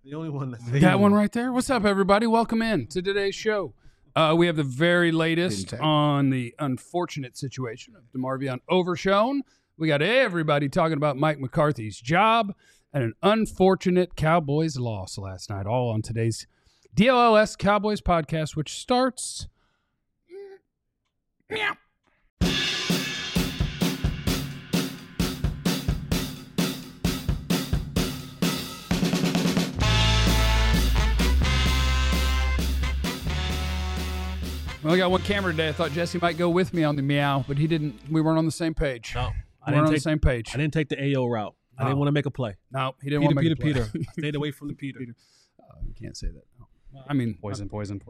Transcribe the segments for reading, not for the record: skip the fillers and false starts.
The only one that's that one right there. What's up, everybody? Welcome in to today's show. We have the very latest on the unfortunate situation of DeMarvion Overshown. We got everybody talking about Mike McCarthy's job and an unfortunate Cowboys loss last night, all on today's DLLS Cowboys podcast, which starts meow. Well, I got one camera today. I thought Jesse might go with me on the meow, but he didn't. We weren't on the same page. No, we weren't on the same page. I didn't take the AO route. I didn't want to make a play. No, he didn't want to make a play. Peter. I stayed away from the Peter. You can't say that. I mean, poison.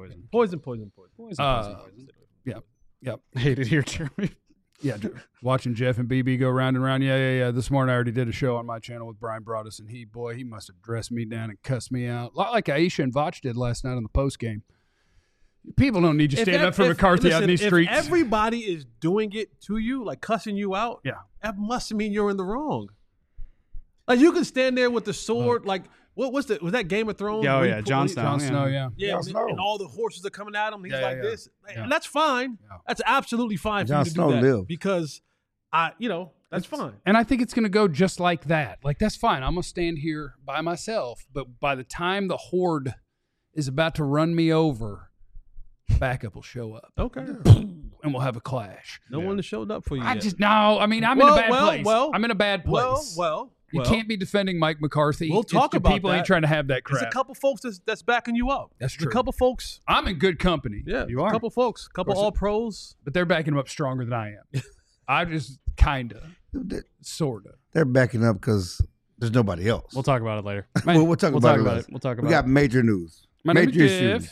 Yep. Hate it here, Jeremy. Yeah, watching Jeff and BB go round and round. Yeah. This morning I already did a show on my channel with Brian Broaddus, and he must have dressed me down and cussed me out. A lot like Aisha and Vach did last night on the post game. People don't need you standing up for McCarthy out in these streets. If everybody is doing it to you, like cussing you out, that must mean you're in the wrong. Like you can stand there with the sword, like was that Game of Thrones? Oh yeah, Jon Snow. Yeah, and all the horses are coming at him. He's like this, and that's fine. Yeah. That's absolutely fine for you to do that because that's fine. And I think it's going to go just like that. Like that's fine. I'm going to stand here by myself, but by the time the horde is about to run me over, backup will show up. Okay. And we'll have a clash. No one has showed up for you yet. I'm in a bad place. I'm in a bad place. You can't be defending Mike McCarthy. We'll talk about people ain't trying to have that crap. There's a couple folks that's backing you up. That's true. A couple folks. I'm in good company. Yeah, you are. A couple folks. A couple all-pros. But they're backing him up stronger than I am. I just kind of, sort of. They're backing up because there's nobody else. We'll talk about it later. We'll talk about it. We'll talk about it. We got major news. My name is Jeff.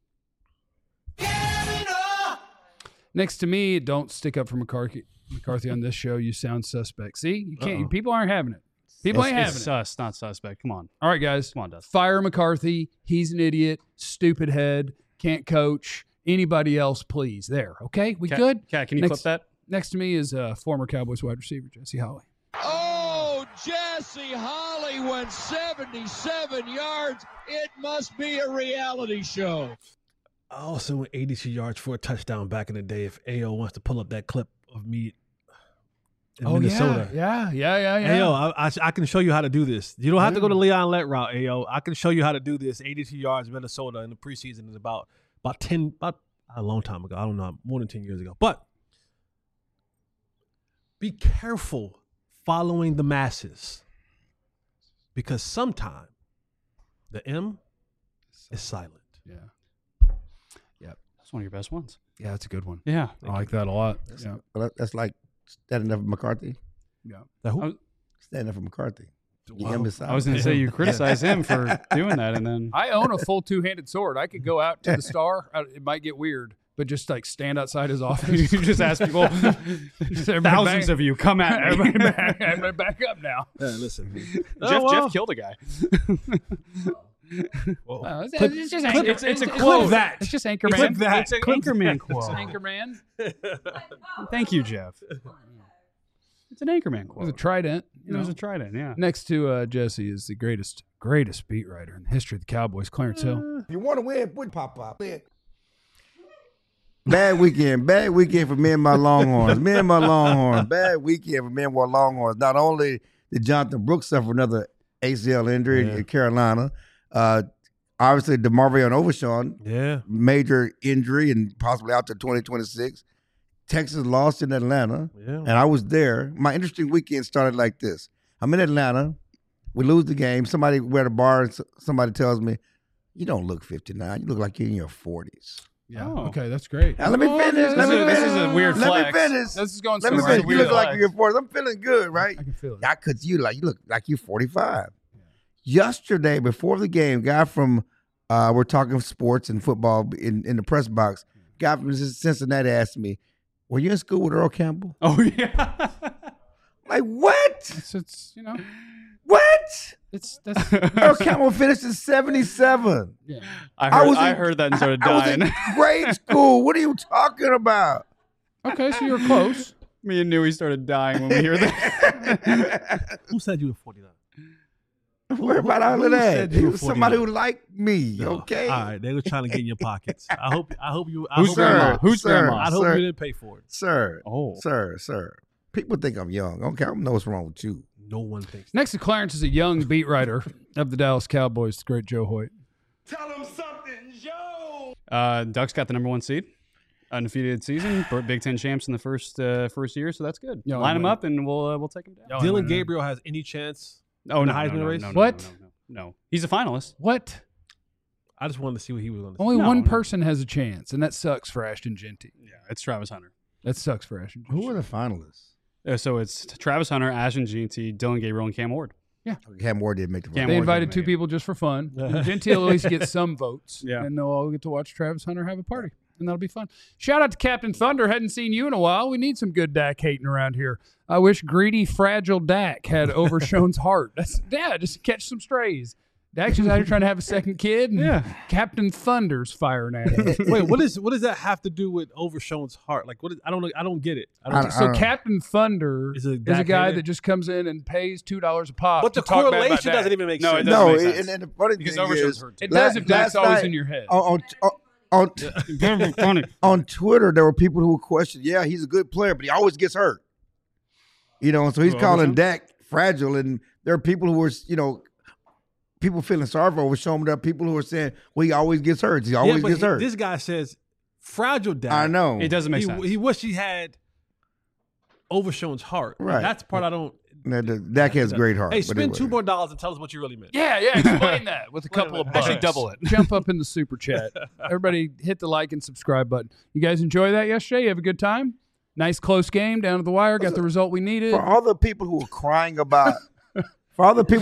Next to me, don't stick up for McCarthy on this show. You sound suspect. See, you can't. People aren't having it. People ain't having it. Sus, not suspect. Come on. All right, guys. Come on, Dustin. Fire McCarthy. He's an idiot. Stupid head. Can't coach. Anybody else, please. There. Okay, we good? Cat, can you clip that? Next to me is former Cowboys wide receiver Jesse Holley. Oh, Jesse Holley went 77 yards. It must be a reality show. I also went 82 yards for a touchdown back in the day. If AO wants to pull up that clip of me in Minnesota. Yeah. AO, I can show you how to do this. You don't have to go to Leon Lett route, AO. I can show you how to do this. 82 yards Minnesota in the preseason is about a long time ago. I don't know, more than 10 years ago. But be careful following the masses because sometimes the M is silent. Yeah. That's one of your best ones. Yeah, that's a good one. Yeah. I like that a lot. That's like standing up for McCarthy. Yeah. Standing up for McCarthy. Wow. I was going to say you criticize him for doing that, and then I own a full two-handed sword. I could go out to the star. It might get weird, but just like stand outside his office. You just ask people. Thousands of you come at me. Everybody back up now. Listen, Jeff killed a guy. It's a quote. It's just Anchorman. Clip that. It's an Anchorman quote. It's an Anchorman. Thank you, Jeff. It's an Anchorman quote. It was a trident. It was a trident, yeah. Next to Jesse is the greatest beat writer in the history of the Cowboys, Clarence Hill. If you want to win, put pop. Bad weekend for me and my Longhorns. Bad weekend for me and my Longhorns. Not only did Jonathan Brooks suffer another ACL injury in Carolina, obviously DeMarvion Overshown, major injury and possibly out to 2026. Texas lost in Atlanta, and I was there. My interesting weekend started like this. I'm in Atlanta. We lose the game. Somebody, we're at a bar, and somebody tells me, you don't look 59. You look like you're in your 40s. Yeah. Oh. Okay, that's great. Now, let me finish. This is a weird flex. Let me finish. This is going Let me somewhere. finish. You look like you're 40s. I'm feeling good, right? I can feel it. Yeah, because you look like you're 45. Yesterday, before the game, guy from we're talking sports and football in the press box. Guy from Cincinnati asked me, "Were you in school with Earl Campbell?" Oh yeah. Like what? It's What? That's Earl Campbell finished in 77. Yeah. I heard that and started dying. I was in grade school. What are you talking about? Okay, so you're close. Me and Newey started dying when we hear that. Who said you were 49? Worry about all Who of that. said He you were was somebody 49? who liked me. No. Okay. All right, they were trying to get in your pockets. I hope you. I Who's hope grandma? you- Who's sir, grandma? I hope sir. you didn't pay for it. Sir. Oh. Sir. People think I'm young. Okay, I don't know what's wrong with you. No one thinks. Next to Clarence is a young beat writer of the Dallas Cowboys, the great Joe Hoyt. Ducks got the number 1 seed, undefeated season, Big Ten champs in the first year, so that's good. Y'all Line them win. up, and we'll take them down. Dylan Gabriel has any chance? Oh, in no, the Heisman race? No, What? No. He's a finalist. What? I just wanted to see what he was going to say. Only No, one no. person has a chance, and that sucks for Ashton Genty. Yeah, it's Travis Hunter. That sucks for Ashton Genty. Who are the finalists? So it's Travis Hunter, Ashton Jeanty, Dylan Gabriel, and Cam Ward. Cam Ward did make the Cam They Ward invited didn't 2 make it. people just for fun. Genty will at least get some votes, Yeah. and they'll all get to watch Travis Hunter have a party, and that'll be fun. Shout out to Captain Thunder. Hadn't seen you in a while. We need some good Dak hating around here. I wish greedy, fragile Dak had Overshown's heart. Just catch some strays. Dak's just out here trying to have a second kid, and Captain Thunder's firing at him. Wait, what does that have to do with Overshown's heart? Like, what? I don't get it. I don't. So Captain Thunder Is is it a Dak guy hater? that just comes in and pays $2 a pop. but the to talk bad about correlation Dak. doesn't even make No, sense. it doesn't No, make sense. and the funny Because thing Overshown's is, hurt too. It does if Dak's last always night in your head. on Twitter, there were people who questioned, yeah, he's a good player, but he always gets hurt. So he's Who, calling Overshown? Dak fragile, and there are people who were, people feeling sorry for Overshown. There are people who are saying, well, he always gets hurt. He always but gets hurt. This guy says fragile Dak. I know. It doesn't make sense. He wished he had Overshown's heart. Right. That's the part I don't. Dak has great heart. Hey, but spend anyway. $2 more and tell us what you really meant. Yeah, explain that with a couple of bucks. Actually, double it. Jump up in the super chat. Everybody hit the like and subscribe button. You guys enjoy that yesterday? You have a good time? Nice close game down to the wire. Got the result we needed. For all the people who were crying about, how bad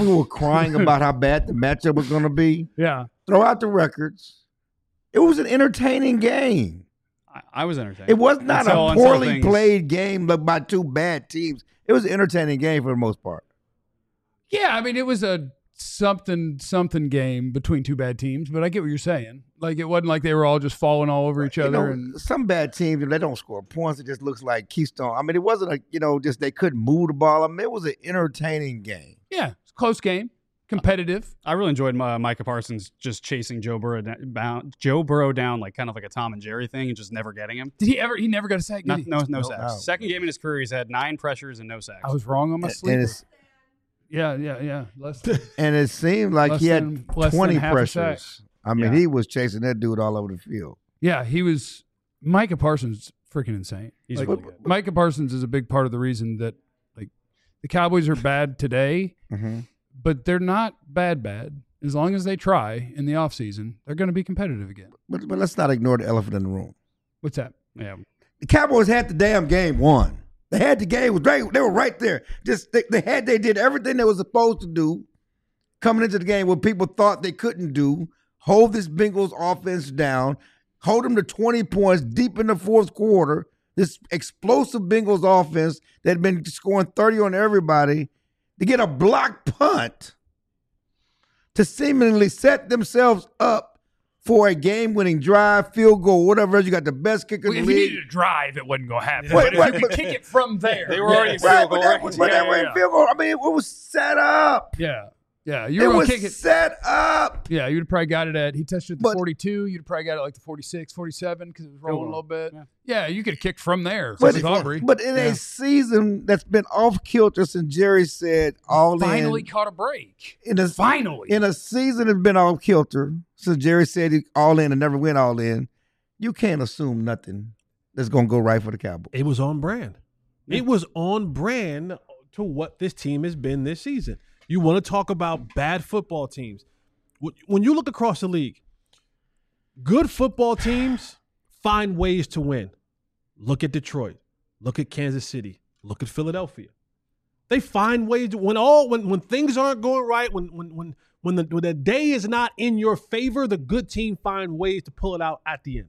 the matchup was going to be, Yeah. throw out the records. It was an entertaining game. I was entertained. It was not Until a poorly things- played game by 2 bad teams. It was an entertaining game for the most part. Yeah, I mean, it was a something game between 2 bad teams, but I get what you're saying. Like, it wasn't like they were all just falling all over each other. And Some bad teams, they don't score points. It just looks like Keystone. I mean, it wasn't just they couldn't move the ball. I mean, it was an entertaining game. yeah, it's a close game, competitive. I really enjoyed Micah Parsons just chasing Joe Burrow down like kind of like a Tom and Jerry thing and just never getting him. Did he ever? He never got a sack, did he? No No. sacks. Second game in his career, he's had 9 pressures and no sacks. I was wrong on my sleeper. And it's Yeah. Less than, And it seemed like Less he had than- less than 20 half a sack. pressures. I mean, Yeah. he was chasing that dude all over the field. yeah, he was. Micah Parsons freaking insane. He's Like, really good. Micah Parsons is a big part of the reason that like the Cowboys are bad today, but they're not bad. As long as they try in the offseason, they're going to be competitive again. But let's not ignore the elephant in the room. What's that? Yeah. The Cowboys had the damn game won. They had the game. They were right there. They did everything they were supposed to do coming into the game what people thought they couldn't do. Hold this Bengals offense down. Hold them to 20 points deep in the fourth quarter. This explosive Bengals offense that had been scoring 30 on everybody to get a block punt to seemingly set themselves up for a game-winning drive, field goal, whatever else. You got the best kicker in If the you league. needed to drive, it wasn't going to happen. Wait, but wait, if you but- could kick it from there. They were already Right, field goal range. but that way field goal. I mean, it was set up. Yeah, It you were going was to kick it. set up. Yeah, you'd have probably got it at, he touched it at the But- 42. You'd have probably got it like the 46, 47 because it was rolling a little bit. Yeah. Yeah, you could have kicked from there. But, With Aubrey. but in a season that's been off kilter since Jerry said all Finally in. caught a break. Finally. In a season that's been off kilter since Jerry said he all in and never went all in, you can't assume nothing that's going to go right for the Cowboys. It was on brand. It was on brand to what this team has been this season. You want to talk about bad football teams. When you look across the league, good football teams find ways to win. Look at Detroit. Look at Kansas City. Look at Philadelphia. They find ways to when things aren't going right, when the day is not in your favor, the good team find ways to pull it out at the end.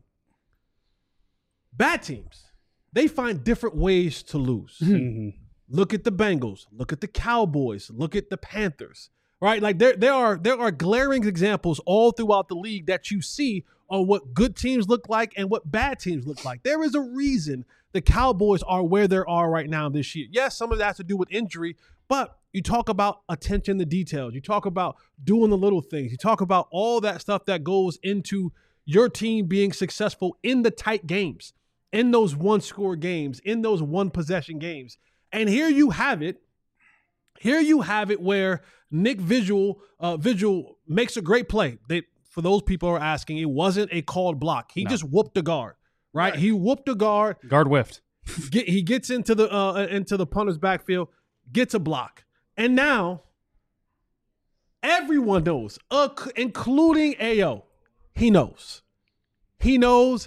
Bad teams, they find different ways to lose. Look at the Bengals. Look at the Cowboys. Look at the Panthers. Right? Like there are glaring examples all throughout the league that you see on what good teams look like and what bad teams look like. There is a reason the Cowboys are where they are right now this year. Yes, some of that has to do with injury, but about attention to details. You talk about doing the little things. You talk about all that stuff that goes into your team being successful in the tight games, in those one-score games, in those one-possession games. And here you have it. Here you have it where Nick Vigil makes a great play. For those people who are asking, it wasn't a called block. He just whooped the guard, right? He whooped the guard. Guard whiffed. He gets into the punter's backfield, gets a block. And now everyone knows, including AO. He knows. He knows.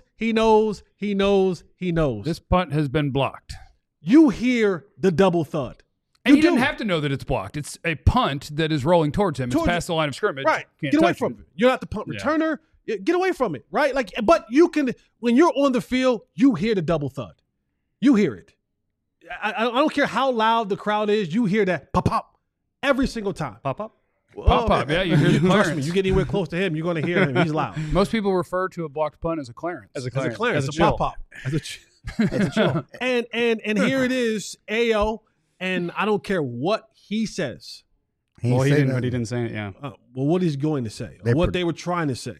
This punt has been blocked. You hear the double thud. And he doesn't have to know that it's blocked. It's a punt that is rolling towards him. It's past the line of scrimmage. Right. Get away from it. You're not the punt returner. Get away from it. Right. But you can, when you're on the field, you hear the double thud. You hear it. I don't care how loud the crowd is. You hear that pop pop every single time. Pop up. Pop up. Yeah, you hear the Trust clearance. me, you get anywhere close to him, you're going to hear him. He's loud. Most people refer to a blocked punt as a clearance. As a pop pop. As a chill. And here it is, AO, and I don't care what he says. He didn't say it. Yeah. Well, what he's going to say, or what they were trying to say.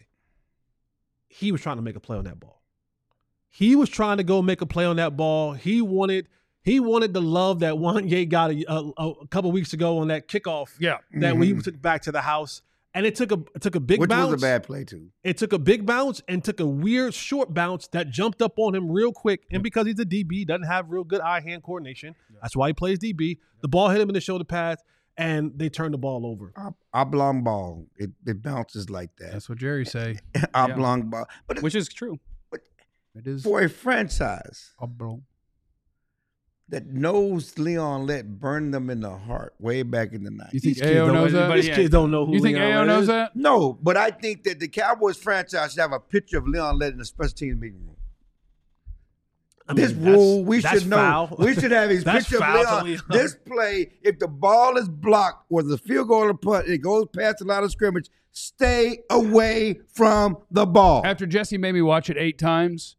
He was trying to make a play on that ball. He was trying to go make a play on that ball. He wanted the love that Wanye got a couple weeks ago on that kickoff. Yeah. That we took back to the house. And it took a big bounce. Which was a bad play, too. It took a big bounce and took a weird short bounce that jumped up on him real quick. And because he's a DB, doesn't have real good eye-hand coordination. That's why he plays DB. The ball hit him in the shoulder pads, and they turned the ball over. Oblong ball. It bounces like that. That's what Jerry say. Oblong ball. Which is true. It is for a franchise oblong. That knows Leon Lett burned them in the heart way back in the 90s. You think AO knows that? These kids don't know who You think AO knows that? No, but I think that the Cowboys franchise should have a picture of Leon Lett in the special teams meeting room. This rule, we should know. Foul. We should have his picture of Leon. This play, if the ball is blocked or the field goal or punt, it goes past the line of scrimmage, stay away from the ball. After Jesse made me watch it 8 times,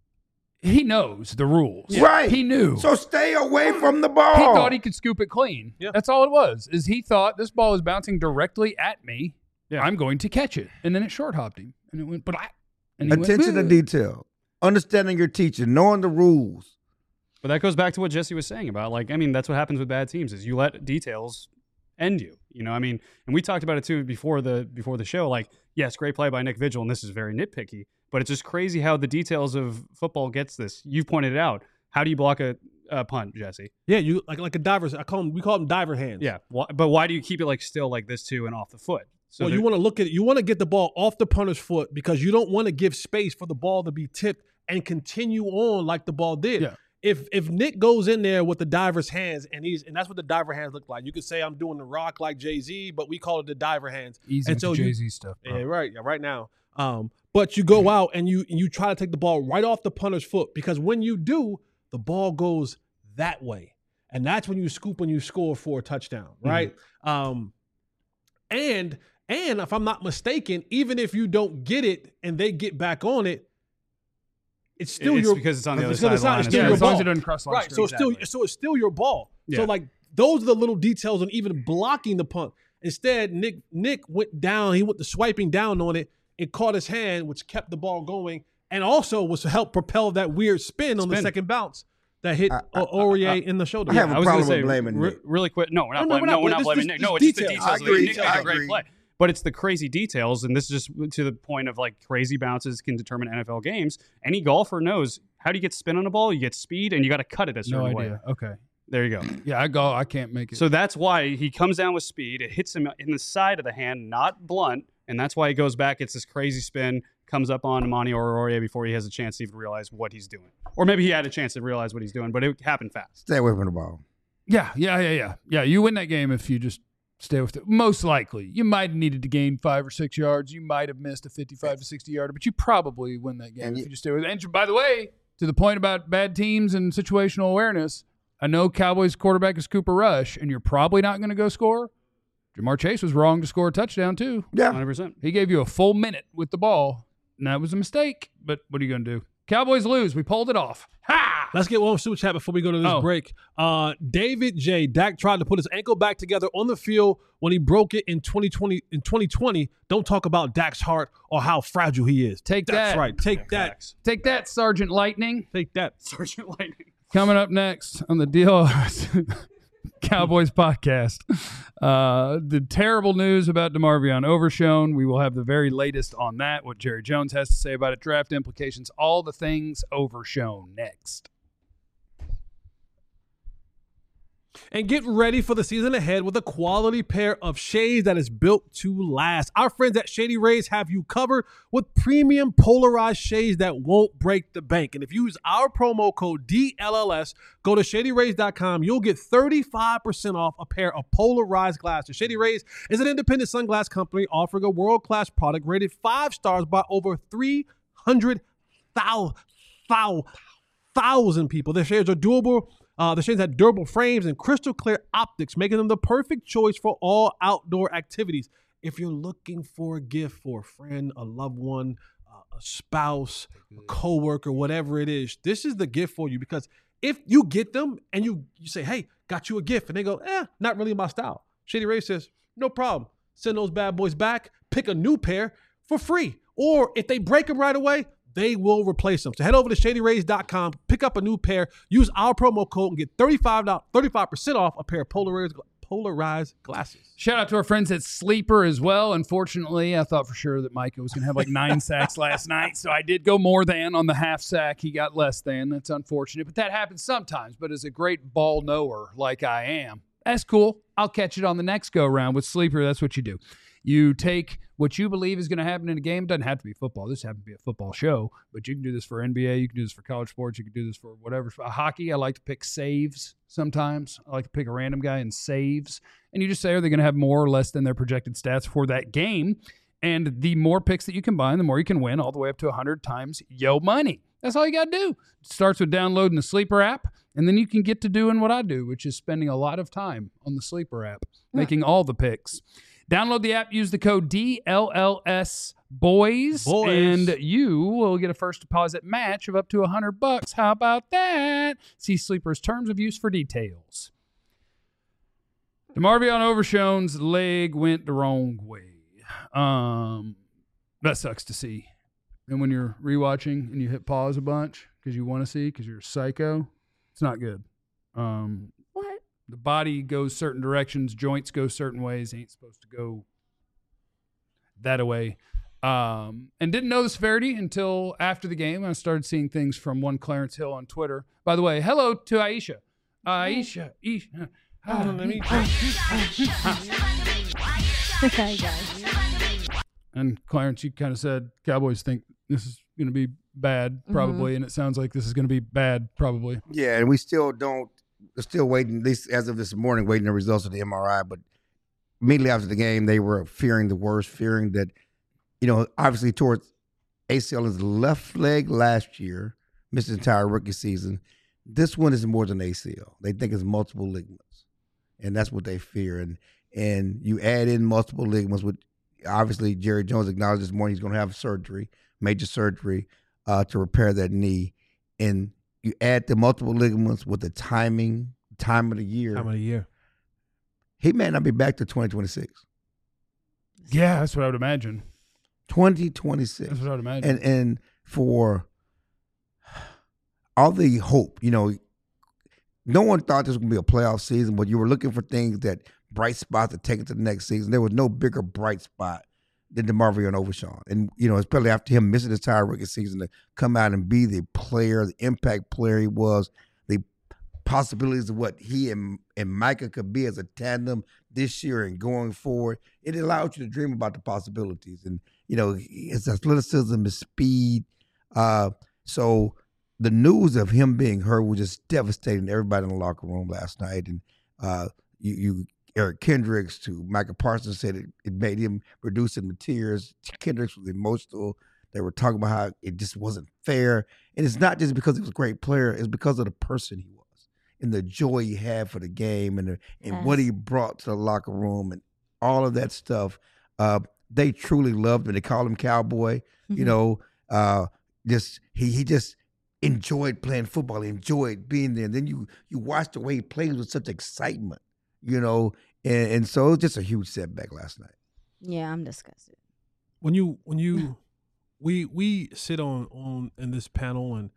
he knows the rules. Right. He knew. So stay away from the ball. He thought he could scoop it clean. Yeah. That's all it was, is he thought this ball is bouncing directly at me. Yeah. I'm going to catch it. And then it short hopped him. And it went, attention to detail. Understanding your teacher, knowing the rules. But that goes back to what Jesse was saying about, that's what happens with bad teams is you let details end you. And we talked about it too before the show. Yes, great play by Nick Vigil, and this is very nitpicky, but it's just crazy how the details of football gets this. You've pointed it out. How do you block a punt, Jesse? Yeah, you like a diver's. We call them diver hands. Yeah, but why do you keep it still like this too and off the foot? So you want to look at it. You want to get the ball off the punter's foot because you don't want to give space for the ball to be tipped and continue on like the ball did. Yeah. If Nick goes in there with the diver's hands and that's what the diver hands look like. You could say I'm doing the rock like Jay-Z, but we call it the diver hands. Easy with Jay-Z stuff. Bro. Yeah, right. Yeah, right now. But you go out and you try to take the ball right off the punter's foot because when you do, the ball goes that way. And that's when you scoop and you score for a touchdown, right? Mm-hmm. And if I'm not mistaken, even if you don't get it and they get back on it, it's still because it's on the other side of the line. It's still your ball. As long as it doesn't cross line. Right. So it's still your ball. Yeah. So those are the little details on even blocking the punt. Instead, Nick went down. He went to swiping down on it. It caught his hand, which kept the ball going, and also was to help propel that weird spin on the second bounce that hit Aurier in the shoulder. I have a problem with blaming Nick. Really quick. No, we're not blaming Nick. No, it's just the details. Nick made a great play. But it's the crazy details, and this is just to the point of crazy bounces can determine NFL games. Any golfer knows how do you get spin on a ball? You get speed, and you got to cut it a certain way. Okay. There you go. Yeah, I can't make it. So that's why he comes down with speed. It hits him in the side of the hand, not blunt, and that's why he goes back. It's this crazy spin, comes up on Amani Aurier before he has a chance to even realize what he's doing. Or maybe he had a chance to realize what he's doing, but it happened fast. Stay away from the ball. Yeah. Yeah, you win that game if you just stay with it. Most likely. You might have needed to gain 5 or 6 yards. You might have missed a 55 to 60 yarder, but you probably win that game if you just stay with it. And by the way, to the point about bad teams and situational awareness, I know Cowboys quarterback is Cooper Rush, and you're probably not going to go score. Jamar Chase was wrong to score a touchdown, too. Yeah. 100%. He gave you a full minute with the ball, and that was a mistake. But what are you going to do? Cowboys lose. We pulled it off. Ha! Let's get one super chat before we go to this break. David J. Dak tried to put his ankle back together on the field when he broke it in 2020. Don't talk about Dak's heart or how fragile he is. That's that. Right. Take that. Take that, Sergeant Lightning. Take that. Sergeant Lightning. Coming up next on the Deal Cowboys podcast, the terrible news about DeMarvion Overshown. We will have the very latest on that, what Jerry Jones has to say about it, draft implications, all the things Overshown next. And get ready for the season ahead with a quality pair of shades that is built to last. Our friends at Shady Rays have you covered with premium polarized shades that won't break the bank. And if you use our promo code DLLS, go to ShadyRays.com. You'll get 35% off a pair of polarized glasses. Shady Rays is an independent sunglass company offering a world-class product rated 5 stars by over 300,000 people. Their shades are durable. The shades have durable frames and crystal clear optics, making them the perfect choice for all outdoor activities. If you're looking for a gift for a friend, a loved one, a spouse, a coworker, whatever it is, this is the gift for you. Because if you get them and you say, hey, got you a gift, and they go, not really my style, Shady Rays says, no problem. Send those bad boys back, pick a new pair for free. Or if they break them right away, they will replace them. So head over to ShadyRays.com, pick up a new pair, use our promo code, and get 35% off a pair of polarized glasses. Shout out to our friends at Sleeper as well. Unfortunately, I thought for sure that Micah was going to have like 9 sacks last night, so I did go more than on the half sack. He got less than. That's unfortunate, but that happens sometimes. But as a great ball knower like I am, that's cool. I'll catch it on the next go-round with Sleeper. That's what you do. You take what you believe is going to happen in a game. It doesn't have to be football. This happens to be a football show, but you can do this for NBA. You can do this for college sports. You can do this for whatever. For hockey, I like to pick saves sometimes. I like to pick a random guy and saves. And you just say, are they going to have more or less than their projected stats for that game? And the more picks that you combine, the more you can win, all the way up to 100 times yo money. That's all you got to do. It starts with downloading the Sleeper app, and then you can get to doing what I do, which is spending a lot of time on the Sleeper app, making all the picks. Download the app, use the code DLLS boys, and you will get a first deposit match of up to $100. How about that? See Sleeper's terms of use for details. DeMarvion Overshown's leg went the wrong way. That sucks to see. And when you're rewatching and you hit pause a bunch because you want to see, because you're a psycho, it's not good. What? The body goes certain directions, joints go certain ways, ain't supposed to go that way. And didn't know the severity until after the game. I started seeing things from one Clarence Hill on Twitter. By the way, hello to Aisha. Aisha. And Clarence, you kind of said Cowboys think this is going to be bad, probably, and it sounds like this is going to be bad, probably. Yeah, and we still don't. We're still waiting, at least as of this morning, waiting the results of the MRI. But immediately after the game, they were fearing the worst, fearing that, obviously towards ACL his left leg last year, missed his entire rookie season. This one is more than ACL. They think it's multiple ligaments, and that's what they fear. And you add in multiple ligaments, which obviously Jerry Jones acknowledged this morning he's going to have surgery, major surgery, to repair that knee. And you add the multiple ligaments with the time of the year. He may not be back to 2026. Yeah, that's what I would imagine. 2026. That's what I would imagine. And for all the hope, no one thought this was going to be a playoff season, but you were looking for things bright spots to take it to the next season. There was no bigger bright spot than DeMarvion Overshown. And, especially after him missing his entire rookie season, to come out and be the player, the impact player he was, the possibilities of what he and Micah could be as a tandem this year and going forward, it allowed you to dream about the possibilities. And, his athleticism, his speed. So the news of him being hurt was just devastating to everybody in the locker room last night. And Eric Kendricks to Micah Parsons said it made him reduce into tears. Kendricks was emotional. They were talking about how it just wasn't fair. And it's not just because he was a great player. It's because of the person he was and the joy he had for the game and what he brought to the locker room and all of that stuff. They truly loved him. They call him Cowboy. He just enjoyed playing football, enjoyed being there. And then you watched the way he played with such excitement, you know, and so it was just a huge setback last night. Yeah, I'm disgusted. When we sit on in this panel and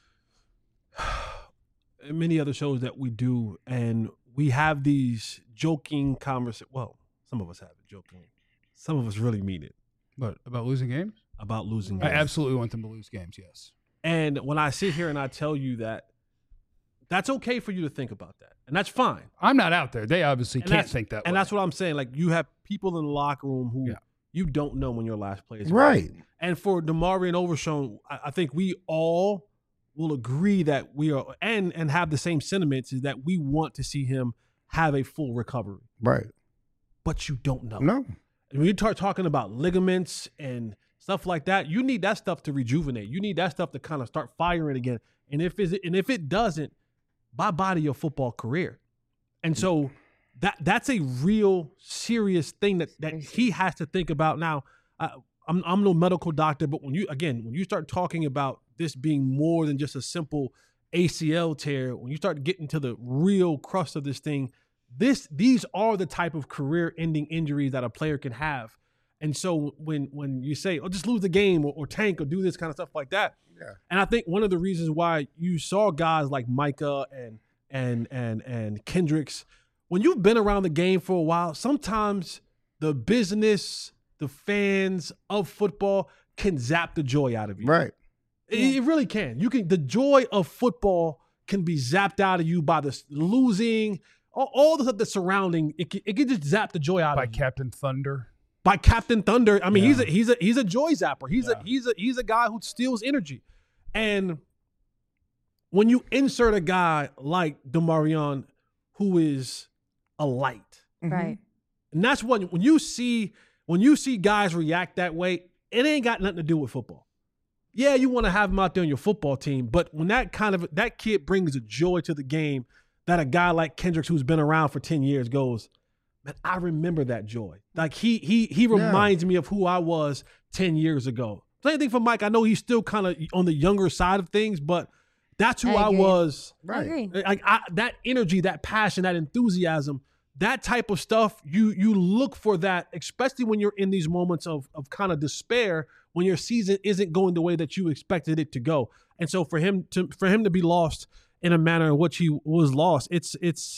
many other shows that we do, and we have these joking conversations. Well, some of us have it joking. Some of us really mean it. But about losing games? About losing I games. absolutely want them to lose games, yes. And when I sit here and I tell you that, that's okay for you to think about that. And that's fine. I'm not out there. They obviously can't think that way. And that's what I'm saying. Like, you have people in the locker room who you don't know when your last play is right. And for DeMarvion Overshown, I think we all will agree that we are and have the same sentiments, is that we want to see him have a full recovery. Right. But you don't know. No. And when you start talking about ligaments and stuff like that, you need that stuff to rejuvenate. You need that stuff to kind of start firing again. And if it doesn't, bye-bye to your football career. And so that's a real serious thing that he has to think about. Now, I'm no medical doctor, but when you start talking about this being more than just a simple ACL tear, when you start getting to the real crust of this thing, these are the type of career-ending injuries that a player can have. And so when you say, "Oh, just lose the game or tank or do this kind of stuff like that," and I think one of the reasons why you saw guys like Micah and Kendricks, when you've been around the game for a while, sometimes the business, the fans of football can zap the joy out of you. Right. It really can. The joy of football can be zapped out of you by the losing, all the stuff that's surrounding. It can just zap the joy out of you. By Captain Thunder. By Captain Thunder. I mean, he's a joy zapper. He's a guy who steals energy. And when you insert a guy like DeMarvion, who is a light, Right. and that's when you see guys react that way, it ain't got nothing to do with football. Yeah, you want to have him out there on your football team, but when that kid brings a joy to the game, that a guy like Kendricks, who's been around for 10 years, goes, man, I remember that joy. Like he reminds me of who I was 10 years ago. Same thing for Mike. I know he's still kind of on the younger side of things, but that's who I was. I agree. Like that energy, that passion, that enthusiasm, that type of stuff, you look for that, especially when you're in these moments of kind of despair, when your season isn't going the way that you expected it to go. And so for him to be lost in a manner in which he was lost, it's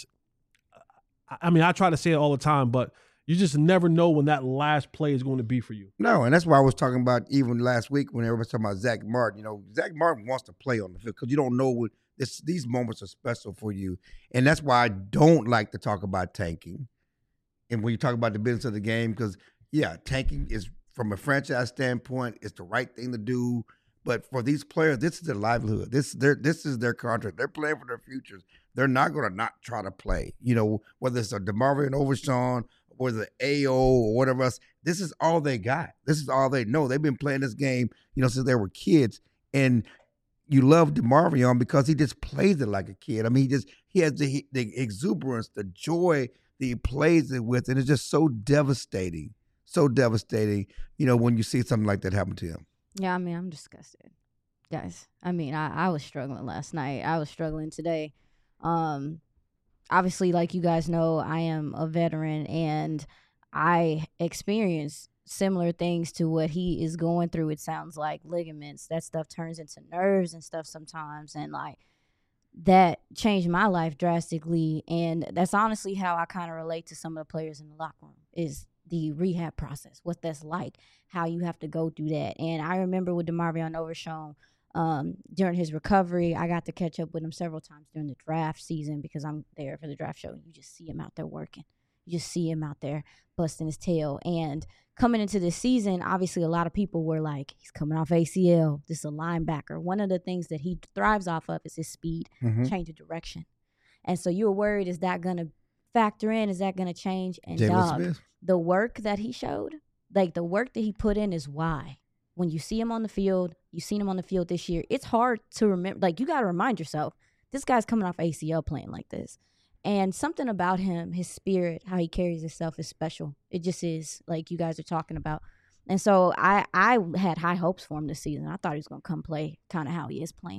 I mean, I try to say it all the time, but you just never know when that last play is going to be for you. No, and that's why I was talking about even last week when everybody's talking about Zach Martin. You know, Zach Martin wants to play on the field because you don't know what these moments are special for you. And that's why I don't like to talk about tanking. And when you talk about the business of the game, because, tanking is, from a franchise standpoint, it's the right thing to do. But for these players, this is their livelihood. This is their contract. They're playing for their futures. They're not going to not try to play. You know, whether it's a DeMarvion Overshown or the AO or whatever else, this is all they got. This is all they know. They've been playing this game, since they were kids. And you love DeMarvion because he just plays it like a kid. I mean, he has the exuberance, the joy that he plays it with, and it's just so devastating. So devastating, when you see something like that happen to him. Yeah, I mean, I'm disgusted, guys. I mean, I was struggling last night. I was struggling today. Obviously, like you guys know, I am a veteran, and I experienced similar things to what he is going through. It sounds like ligaments. That stuff turns into nerves and stuff sometimes, and like that changed my life drastically. And that's honestly how I kind of relate to some of the players in the locker room, is the rehab process, what that's like, how you have to go through that. And I remember with DeMarvion Overshown, during his recovery, I got to catch up with him several times during the draft season because I'm there for the draft show. You just see him out there working. You just see him out there busting his tail. And coming into this season, obviously a lot of people were like, he's coming off ACL. This is a linebacker. One of the things that he thrives off of is his speed, change of direction. And so you were worried, is that going to factor in? Is that going to change? And the work that he showed, like the work that he put in is why. When you see him on the field, you've seen him on the field this year, it's hard to remember. Like, you got to remind yourself, this guy's coming off ACL playing like this. And something about him, his spirit, how he carries himself is special. It just is, like you guys are talking about. And so I had high hopes for him this season. I thought he was going to come play kind of how he is playing.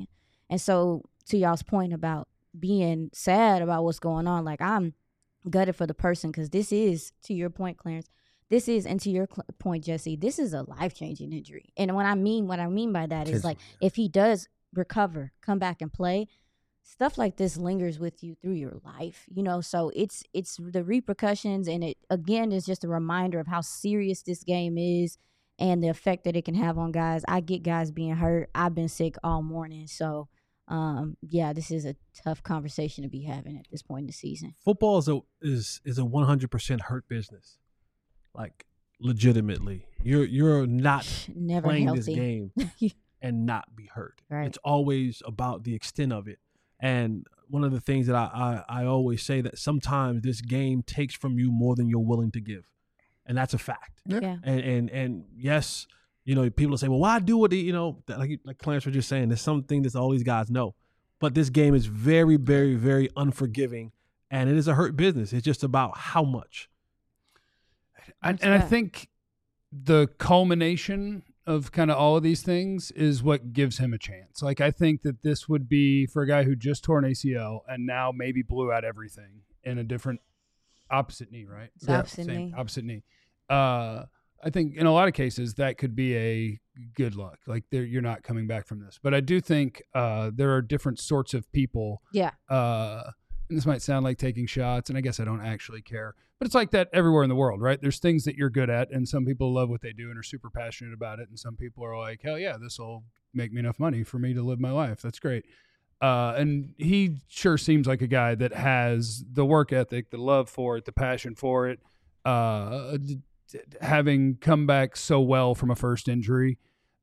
And so to y'all's point about being sad about what's going on, like I'm gutted for the person because this is, to your point, Clarence, this is, and to your point, Jesse, this is a life-changing injury. And what I mean by that is like if he does recover, come back and play, stuff like this lingers with you through your life, you know. So it's the repercussions, and it again is just a reminder of how serious this game is and the effect that it can have on guys. I get guys being hurt. I've been sick all morning, so yeah, this is a tough conversation to be having at this point in the season. Football is a 100% hurt business, like legitimately. You're not Never playing healthy. this game and not be hurt. Right. It's always about the extent of it. And one of the things that I always say that sometimes this game takes from you more than you're willing to give, and that's a fact. Yeah. And yes, you know, people say, well, why do it? You know, like Clarence was just saying, there's something that all these guys know. But this game is very, very, very unforgiving, and it is a hurt business. It's just about how much. I think the culmination of kind of all of these things is what gives him a chance. Like, I think that this would be for a guy who just tore an ACL and now maybe blew out everything in a different opposite knee, right? Opposite knee. I think in a lot of cases that could be a good luck. Like you're not coming back from this. But I do think there are different sorts of people. Yeah. And this might sound like taking shots, and I guess I don't actually care. But it's like that everywhere in the world, right? There's things that you're good at, and some people love what they do and are super passionate about it. And some people are like, hell yeah, this will make me enough money for me to live my life. That's great. And he sure seems like a guy that has the work ethic, the love for it, the passion for it, having come back so well from a first injury.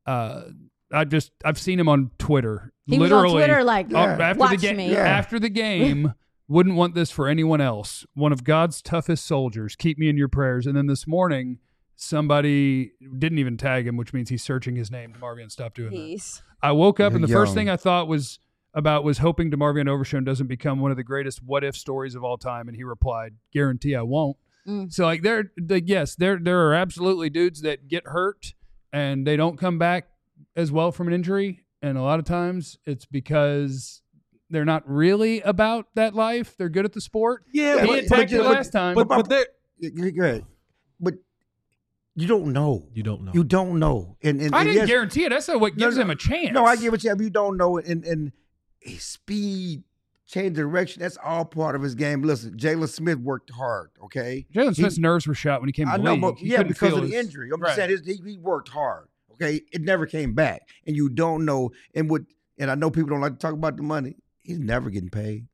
I've seen him on Twitter. He literally was on Twitter like, watch me. After the game, wouldn't want this for anyone else. One of God's toughest soldiers. Keep me in your prayers. And then this morning, somebody didn't even tag him, which means he's searching his name. DeMarvion, stop doing that. I woke up, and the first thing I thought was hoping DeMarvion Overshown doesn't become one of the greatest what-if stories of all time. And he replied, guarantee I won't. So, like, there are absolutely dudes that get hurt, and they don't come back as well from an injury. And a lot of times it's because they're not really about that life. They're good at the sport. Yeah, he attacked you last time. But they're good. But you don't know. You don't know. You don't know. And I didn't guarantee it. That's not what gives him a chance. No, I give it to you. You don't know. And his speed, change direction, that's all part of his game. Listen, Jalen Smith worked hard, okay? Jalen Smith's nerves were shot when he came to the league. But because of the injury. I'm just saying he worked hard, okay? It never came back. And you don't know. And I know people don't like to talk about the money. He's never getting paid.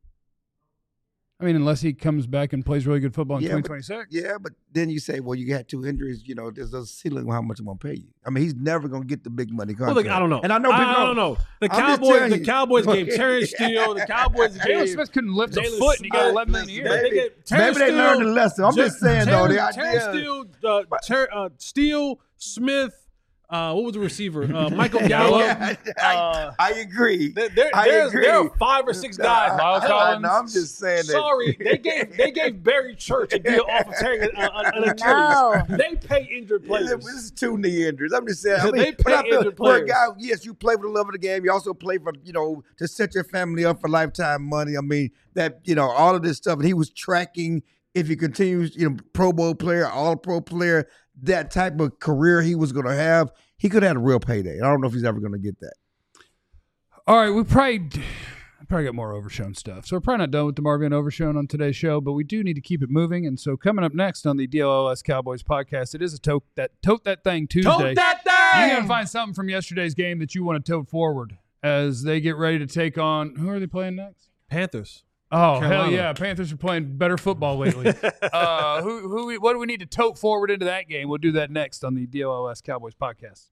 I mean, unless he comes back and plays really good football in 2026. But then you say, well, you got 2 injuries. You know, there's a ceiling on how much I'm going to pay you. I mean, he's never going to get the big money contract. Well, look, I don't know. And I know people don't know. The Cowboys gave Terrence Steele. The Cowboys gave Jalen Smith couldn't lift a foot, and he got $11 million a year. Maybe they learned the lesson. I'm just saying, though, the idea. Terrence Steele, Smith. What was the receiver? Michael Gallup. I agree. There are 5 or 6 guys. Miles Collins. I'm just saying that. Sorry, they gave Barry Church a deal off of tearing an Achilles. No. They pay injured players. This is 2 knee injuries. I'm just saying. I mean, They pay injured for a players. guy, yes, you play for the love of the game. You also play for, to set your family up for lifetime money. I mean, that, all of this stuff. And he was tracking, if he continues, Pro Bowl player, All-Pro player, that type of career he was going to have, he could have had a real payday. I don't know if he's ever going to get that. All right, we probably got more Overshown stuff. So we're probably not done with DeMarvion Overshown on today's show, but we do need to keep it moving. And so coming up next on the DLLS Cowboys podcast, it is a Tote That Thing Tuesday. Tote that thing! You're going to find something from yesterday's game that you want to tote forward as they get ready to take on, who are they playing next? Panthers. Oh, Carolina. hell yeah. Panthers are playing better football lately. What do we need to tote forward into that game? We'll do that next on the DLLS Cowboys podcast.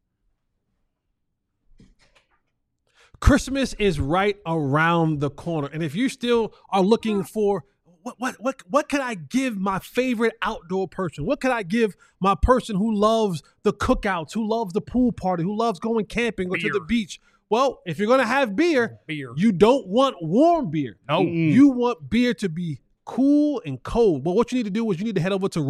Christmas is right around the corner. And if you still are looking for what can I give my favorite outdoor person? What can I give my person who loves the cookouts, who loves the pool party, who loves going camping or to the beach? Well, if you're going to have beer, you don't want warm beer. No. You want beer to be cool and cold. But what you need to do is you need to head over to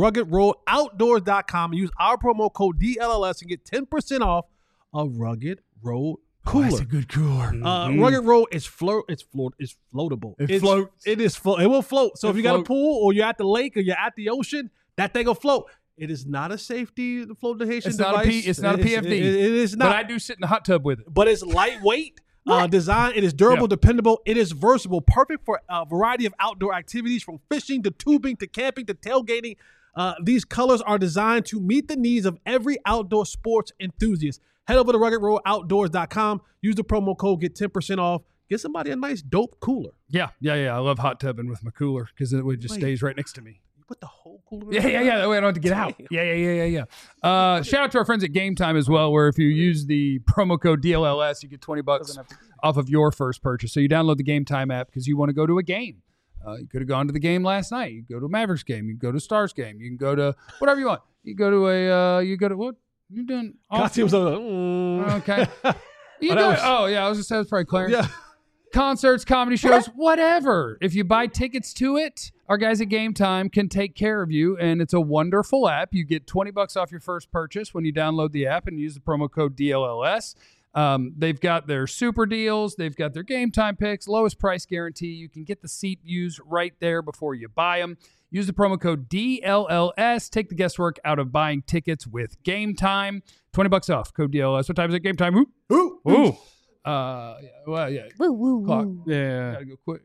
ruggedroadoutdoors.com and use our promo code DLLS and get 10% off a Rugged Road cooler. That's a good cooler. Rugged Road is floatable. It floats. It will float. So It if you got a float. pool or you're at the lake or you're at the ocean, that thing will float. It is not a safety flotation It's not a device. it's not a PFD. It is not. But I do sit in the hot tub with it. But it's lightweight. Design. It is durable, Yeah. dependable. It is versatile, perfect for a variety of outdoor activities, from fishing to tubing to camping to tailgating. These colors are designed to meet the needs of every outdoor sports enthusiast. Head over to RuggedRoadOutdoors.com. Use the promo code, get 10% off. Get somebody a nice, dope cooler. Yeah. I love hot tubbing with my cooler because it just stays right next to me. You put the whole cooler. Yeah. That way I don't have to get out. Yeah. Shout out to our friends at Game Time as well, where if you use the promo code DLLS, you get $20 off of your first purchase. So you download the Game Time app because you want to go to a game. You could have gone to the game last night. You can go to a Mavericks game. You can go to a Stars game. You can go to whatever you want. You go to what? You doing? Costume was Okay. You go, I was just saying, that's probably Clarence. Yeah. Concerts, comedy shows, whatever. If you buy tickets to it, our guys at Game Time can take care of you, and it's a wonderful app. You get $20 off your first purchase when you download the app and use the promo code DLLS. They've got their super deals. They've got their Game Time picks, lowest price guarantee. You can get the seat views right there before you buy them. Use the promo code DLLS. Take the guesswork out of buying tickets with Game Time. $20 off. Code DLLS. What time is it? Game Time. Ooh. Woo, woo, Clock. woo. Yeah. Gotta go quick.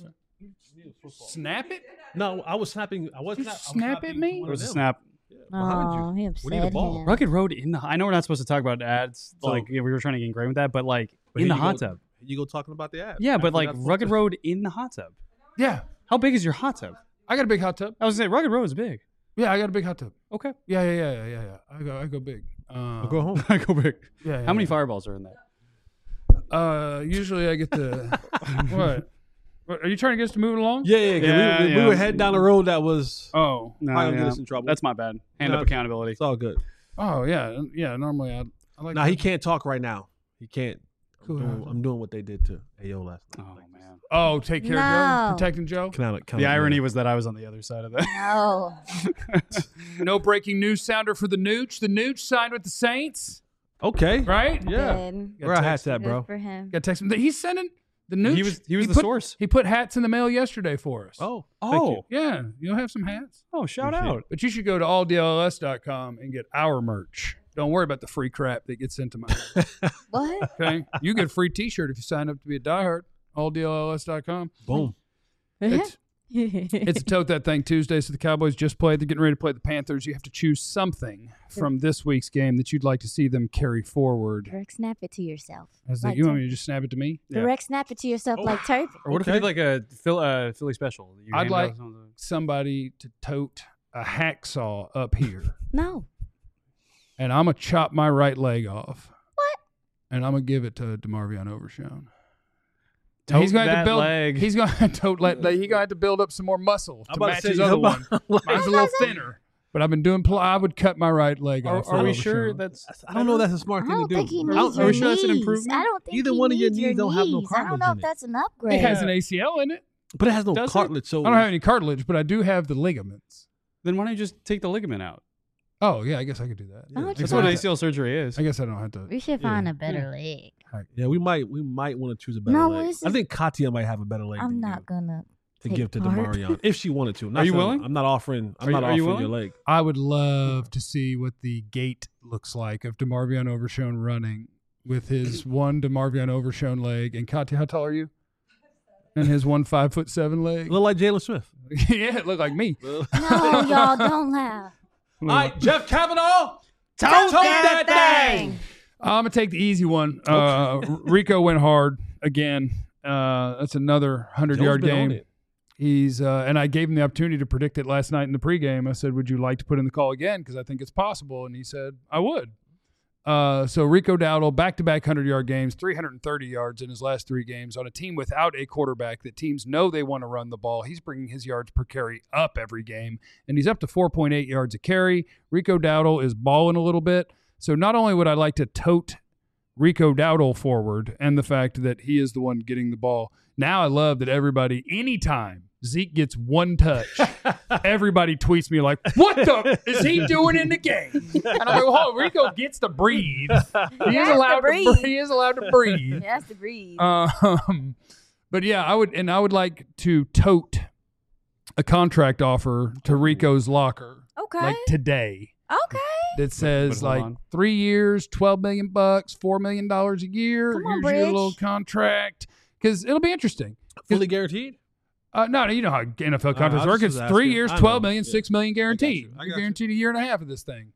Snap it? No, I was snapping. I was You not. snap at me? There was a snap. Behind you. Oh, he We need a upset ball. him. Rugged Road in the. I know we're not supposed to talk about ads. So- Like we were trying to get ingrained with that, but like But in the here you hot go- tub. You go talking about the app. Yeah, but After like that's Rugged what- Road in the hot tub. Yeah. How big is your hot tub? I got a big hot tub. I was gonna say Rugged Road is big. Yeah, I got a big hot tub. Okay. Yeah. I go big. I'll go home. I go big. Yeah. How many fireballs are in that? Usually I get the what? Are you trying to get us to move along? Yeah. 'Cause we were heading down the road that was Oh. No, probably gonna get us in trouble. That's my bad. Hand No, up accountability. It's all good. Oh yeah. Normally I like. Now he can't talk right now. He can't. Cool. I'm doing what they did to Ayo last night. Oh man. Oh, take care of Joe, No. protecting Joe. The irony was that I was on the other side of that. No. No breaking news sounder for the Nooch. The Nooch signed with the Saints, Okay. right? Yeah. Good. Where our hats at, Good bro? for him. Got text him. He's sending the Nooch. He was the put- source. He put hats in the mail yesterday for us. Oh. Oh. Yeah, you'll have some hats. Oh, shout Appreciate out. But you should go to alldlls.com and get our merch. Don't worry about the free crap that gets sent to my house. What? Okay? You get a free t-shirt if you sign up to be a diehard. alldlls.com. Boom. It's a Tote That Thing Tuesday, so the Cowboys just played. They're getting ready to play the Panthers. You have to choose something from this week's game that you'd like to see them carry forward. Direct snap it to yourself. You want me to just snap it to me? Direct snap it to yourself like turkey. Or what if we did like a Philly special? You I'd hand like out something? somebody to tote a hacksaw up here, No. and I'm going to chop my right leg off. What? And I'm going to give it to DeMarvion Overshown. Tote He's going to that build. leg. He's going to tote that leg. He's going to have to build up some more muscle I'm to about match to say, his other one. like, Mine's a little thinner, but I've been doing. I would cut my right leg off. Are for we sure Overshown. that's? I don't know. That's a smart I thing don't to think do. he I needs don't- your are we sure that's an knees. improvement? I don't think Either he one of your needs knees don't have no knees. I don't cartilage know in if it. that's an It upgrade. has an ACL in it. But it has no Does it? cartilage, so I don't have any cartilage, but I do have the ligaments. Then why don't you just take the ligament out? Oh yeah, I guess I could do that. Why don't you That's try what to- ACL surgery is. I guess I don't have to. We should find a better leg. Yeah, we might want to choose a better No, leg. this I is- think Katia might have a better leg I'm than not you gonna to take give to part. Demarion if she wanted to. Not Are you saying- willing? I'm not offering. I'm Are you- not are you offering your willing? leg. I would love to see what the gait looks like of DeMarvion Overshown running with his one DeMarvion Overshown leg. And Katya, how tall are you? And his 5'7" leg. Look like Jalen Smith. Yeah, it looked like me. No, y'all don't laugh. All right, Jeff Kavanaugh. Tote that thing. I'm gonna take the easy one. Rico went hard again. That's another 100-yard Joe's been on game. it. He's and I gave him the opportunity to predict it last night in the pregame. I said, "Would you like to put in the call again? Because I think it's possible." And he said, "I would." So Rico Dowdle, back-to-back 100-yard games, 330 yards in his last 3 games on a team without a quarterback that teams know they want to run the ball. He's bringing his yards per carry up every game, and he's up to 4.8 yards a carry. Rico Dowdle is balling a little bit. So not only would I like to tote Rico Dowdle forward and the fact that he is the one getting the ball, now I love that everybody, anytime Zeke gets one touch. Everybody tweets me like, "What the is he doing in the game?" And I'm like, "Oh, Rico gets to breathe. He is allowed to breathe. He is allowed to breathe. He has to breathe." But yeah, I would like to tote a contract offer to Rico's locker, Okay. like today, Okay. that says hold like on. 3 years, $12 million, $4 million a year. Come on, Here's your Bridge. little contract, because it'll be interesting. Fully guaranteed? No, you know how NFL contracts I was work. It's just 3 asking. years, I $12 know. million, Yeah. $6 million guaranteed. I got You're you. guaranteed a year and a half of this thing.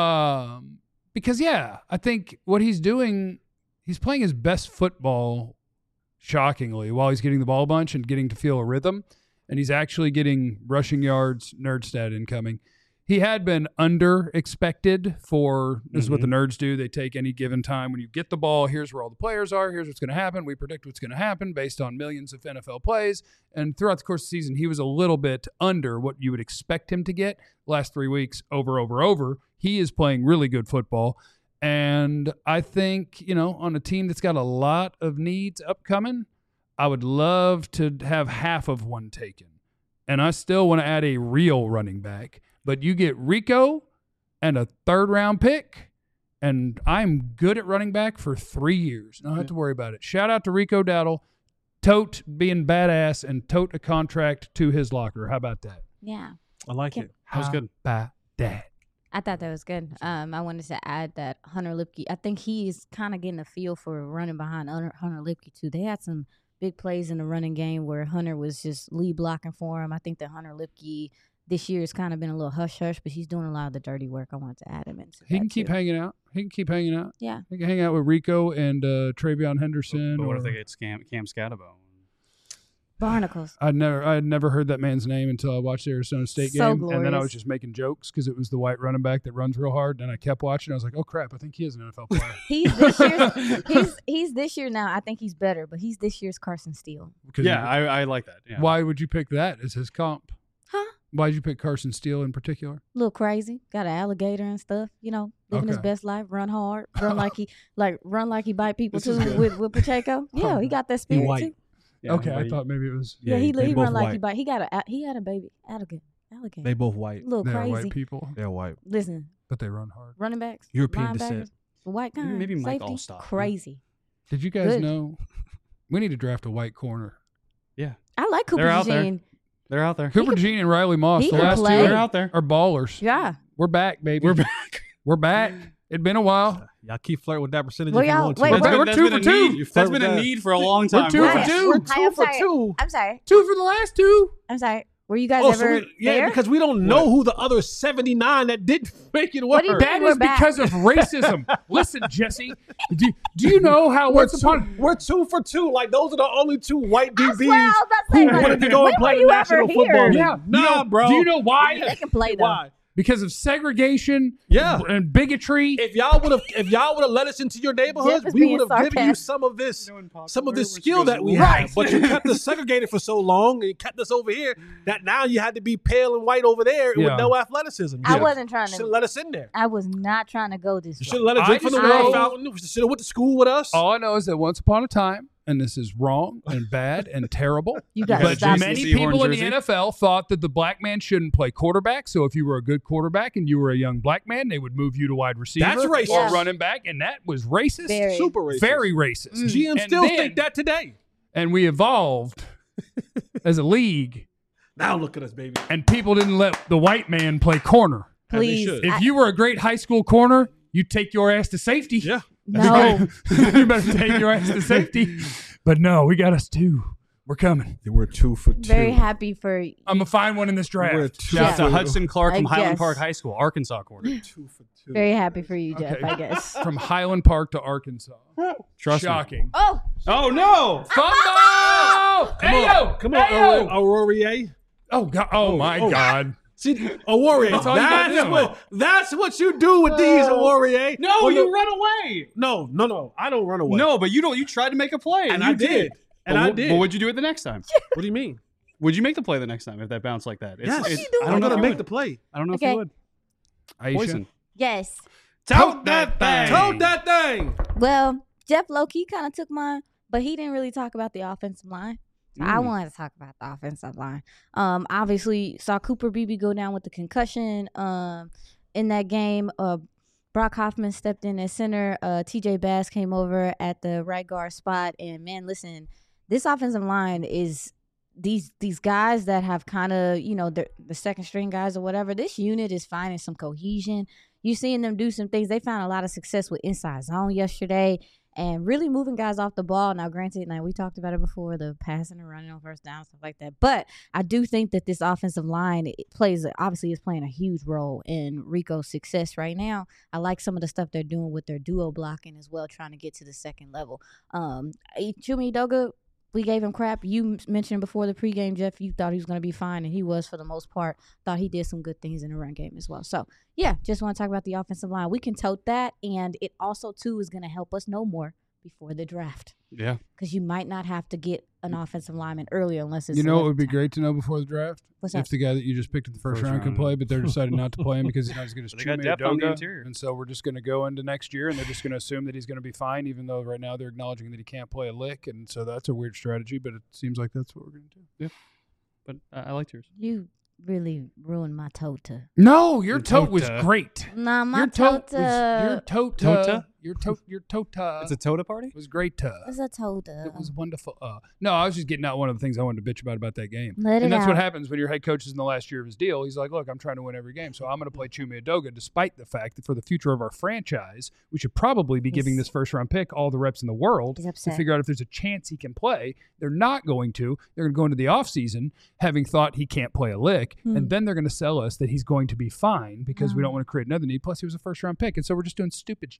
Because yeah, I think what he's doing, he's playing his best football, shockingly, while he's getting the ball a bunch and getting to feel a rhythm, and he's actually getting rushing yards, nerd stat incoming. He had been under expected for, this is what the nerds do. They take any given time. When you get the ball, here's where all the players are. Here's what's going to happen. We predict what's going to happen based on millions of NFL plays. And throughout the course of the season, he was a little bit under what you would expect him to get. Last 3 weeks, over. He is playing really good football. And I think, on a team that's got a lot of needs upcoming, I would love to have half of one taken. And I still want to add a real running back. But you get Rico and a 3rd-round pick, and I'm good at running back for 3 years. I don't have to worry about it. Shout out to Rico Dowdle. Tote being badass and tote a contract to his locker. How about that? Yeah. I like it. That was good. How about that? I thought that was good. I wanted to add that Hunter Lipke, I think he's kind of getting a feel for running behind Hunter Lipke, too. They had some big plays in the running game where Hunter was just lead blocking for him. I think that Hunter Lipke this year has kind of been a little hush-hush, but he's doing a lot of the dirty work. I wanted to add him into He that, can keep too. hanging out. Yeah. He can hang out with Rico and Travion Henderson. But what if or- they get Cam Scatabo? Barnacles. I had never heard that man's name until I watched the Arizona State So game, and then I glorious. was just making jokes because it was the white running back that runs real hard. And I kept watching. I was like, "Oh crap! I think he is an NFL player." He's this year's, he's this year now. I think he's better, but he's this year's Carson Steele. Because Yeah, I like that. Yeah. Why would you pick that as his comp? Huh? Why did you pick Carson Steele in particular? A little crazy. Got an alligator and stuff. Living his Okay. best life. Run hard. Run like he bite people This is too good. with Pacheco. Yeah, he got that spirit white. too. Yeah, Okay, but I thought maybe it was Yeah, he they run both like white. he bite. He had a baby alligator. They both white. A little they're crazy. white people, They're white. Listen, but they run hard. running backs, European linebackers, descent. the white kind, Maybe Mike safety, Allstott, huh? crazy. Did you guys Good. know we need to draft a white corner? I like Cooper They're out there. Jean. They're out there. Cooper Jean and Riley Moss, he the can last play. two They're out there. are ballers. Yeah. We're back, baby. We're back. We're back. It'd been a while. Y'all keep flirting with that percentage Well, if you y'all- want to. wait, That's we're- good. We're 2 for 2. You That's flirt been with a that. need for a long time. 2 for Right. 2. We're Hi, I'm 2 for sorry. 2. I'm sorry. 2 for the last 2. I'm sorry. Were you guys Oh, so ever there? because we don't know who the other 79 that didn't make it work. What do you mean? That We're is back. because of racism. Listen, Jesse, do you know how We're once upon 2 for 2. Like those are the only 2 white I DBs swear, I was about to say, who like, wanted to go when and play were the you National ever Football here? League. Yeah. Nah, bro. Do you know why? They can play though. Why? Because of segregation, Yeah. and bigotry. If y'all would have let us into your neighborhoods, Jeff is we being would have given you sarcastic. some of this skill that we Right. have. But you kept us segregated for so long, and you kept us over here that now you had to be pale and white over there Yeah. with no athleticism. I wasn't trying Should have to. let us in there. I was not trying to go this You way. should have let us I drink from the just water know- fountain. You should have went to school with us. All I know is that once upon a time, and this is wrong and bad and terrible, You got to but stop many this. people in the jersey. NFL thought that the black man shouldn't play quarterback. So if you were a good quarterback and you were a young black man, they would move you to wide receiver That's racist. or Yeah. running back, and that was racist. Very. Super racist. Very racist. GM And still then- think that today. And we evolved as a league, Now look at us, baby. and people didn't let the white man play corner. As they Please. should. If you were a great high school corner, you take your ass to safety. Yeah. No. You better take your ass to safety. But no, we got us 2. We're coming. We're 2 for 2. Very happy for I'm going to find one in this We're draft. 2 Shout out for to Hudson Clark from I Highland guess. Park High School, Arkansas corner. 2 for 2. very happy for you, Jeff. Okay. I guess. From Highland Park to Arkansas. Trust me. Shocking. Oh, Oh no! Fumble! Hey, yo! Come on, Hey, yo! Aurorier. Oh, God. Oh, my God. See, Aurorier. That's all you gotta do. That's what you do with these, Aurorier. No, Oh, you run away. No. I don't run away. No, but you don't. You tried to make a play, and you I did. And I did. But what'd you do it the next time? What do you mean? Would you make the play the next time if that bounced like that? Yes. What you doing? I don't know I'm if gonna you make would. the play. I don't know if Okay. you would. Aisha? Poison. yes. Tote that thing. Toad that thing. Well, Jeff low-key kind of took mine, but he didn't really talk about the offensive line. So I wanted to talk about the offensive line. Obviously saw Cooper Beebe go down with the concussion in that game. Brock Hoffman stepped in at center. TJ Bass came over at the right guard spot. And man, listen, this offensive line is these guys that have kind of, the second string guys or whatever. This unit is finding some cohesion. You're seeing them do some things. They found a lot of success with inside zone yesterday and really moving guys off the ball. Now, granted, we talked about it before, the passing and running on first down, stuff like that. But I do think that this offensive line obviously is playing a huge role in Rico's success right now. I like some of the stuff they're doing with their duo blocking as well, trying to get to the second level. Chuma Edoga, we gave him crap. You mentioned before the pregame, Jeff, you thought he was going to be fine, and he was for the most part. Thought he did some good things in the run game as well. So, yeah, just want to talk about the offensive line. We can tote that, and it also, too, is going to help us know more before the draft. Yeah. Because you might not have to get an offensive lineman earlier unless it's it would be great to know before the draft? What's if that? the guy that you just picked in the first round could play, but they're deciding not to play him because he's going to They got Chuma depth on the Edoga, interior. and so we're just going to go into next year, and they're just going to assume that he's going to be fine, even though right now they're acknowledging that he can't play a lick, and so that's a weird strategy, but it seems like that's what we're going to do. Yeah. But I liked yours. You really ruined my tota. No, your tote was tota. great. Nah, my Your tote tota. was your tota. Tota? Your tota. It's a Tota party? was great. It's a tota. It was wonderful. No, I was just getting out one of the things I wanted to bitch about that game. Let And it that's what out. happens when your head coach is in the last year of his deal. He's like, look, I'm trying to win every game, so I'm going to play Chuma Edoga, despite the fact that for the future of our franchise, we should probably be giving this first-round pick all the reps in the world He's to upset. figure out if there's a chance he can play. They're not going to. They're going to go into the offseason having thought he can't play a lick, and then they're going to sell us that he's going to be fine because we don't want to create another need. Plus, he was a first-round pick, and so we're just doing stupid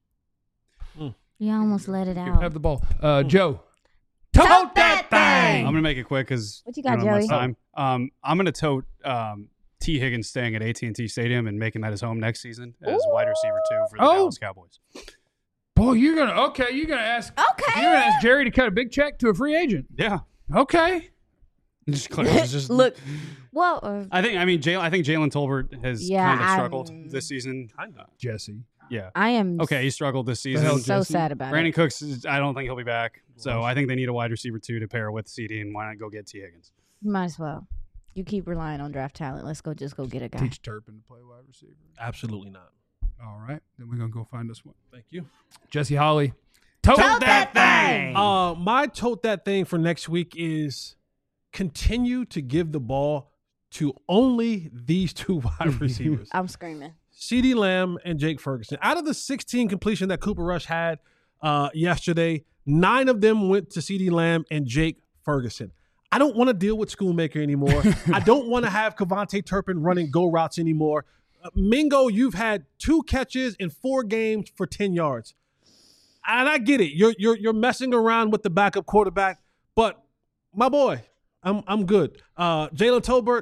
You almost let it out. Have the ball. Joe. Tote that thing! I'm going to make it quick because What you got, we don't have much Joey? time. I'm going to tote T. Higgins staying at AT&T Stadium and making that his home next season as wide receiver 2 for the Dallas Cowboys. Boy, you're gonna ask. Okay. You're gonna ask Jerry to cut a big check to a free agent. Yeah. Okay. Just clear. It's just, Look, well, I think Jalen Tolbert has kind of struggled this season. Jesse. Yeah. I am Okay, he struggled this hell, season. so Jesse? sad about Brandon it. Cooks, I don't think he'll be back. So I think they need a wide receiver 2 to pair with CD, and why not go get T. Higgins? You might as well. You keep relying on draft talent. Let's go get a guy. Teach Turpin to play wide receiver. Absolutely not. All right. Then we're gonna go find us one. Thank you. Jesse Holly. Tote that thing. My tote that thing for next week is continue to give the ball to only these 2 wide receivers. I'm screaming. CeeDee Lamb and Jake Ferguson. Out of the 16 completion that Cooper Rush had yesterday, 9 of them went to CeeDee Lamb and Jake Ferguson. I don't want to deal with Schoonmaker anymore. I don't want to have Kevontae Turpin running go routes anymore. Mingo, you've had 2 catches in 4 games for 10 yards. And I get it. You're messing around with the backup quarterback, but my boy, I'm good. Jalen Tolbert,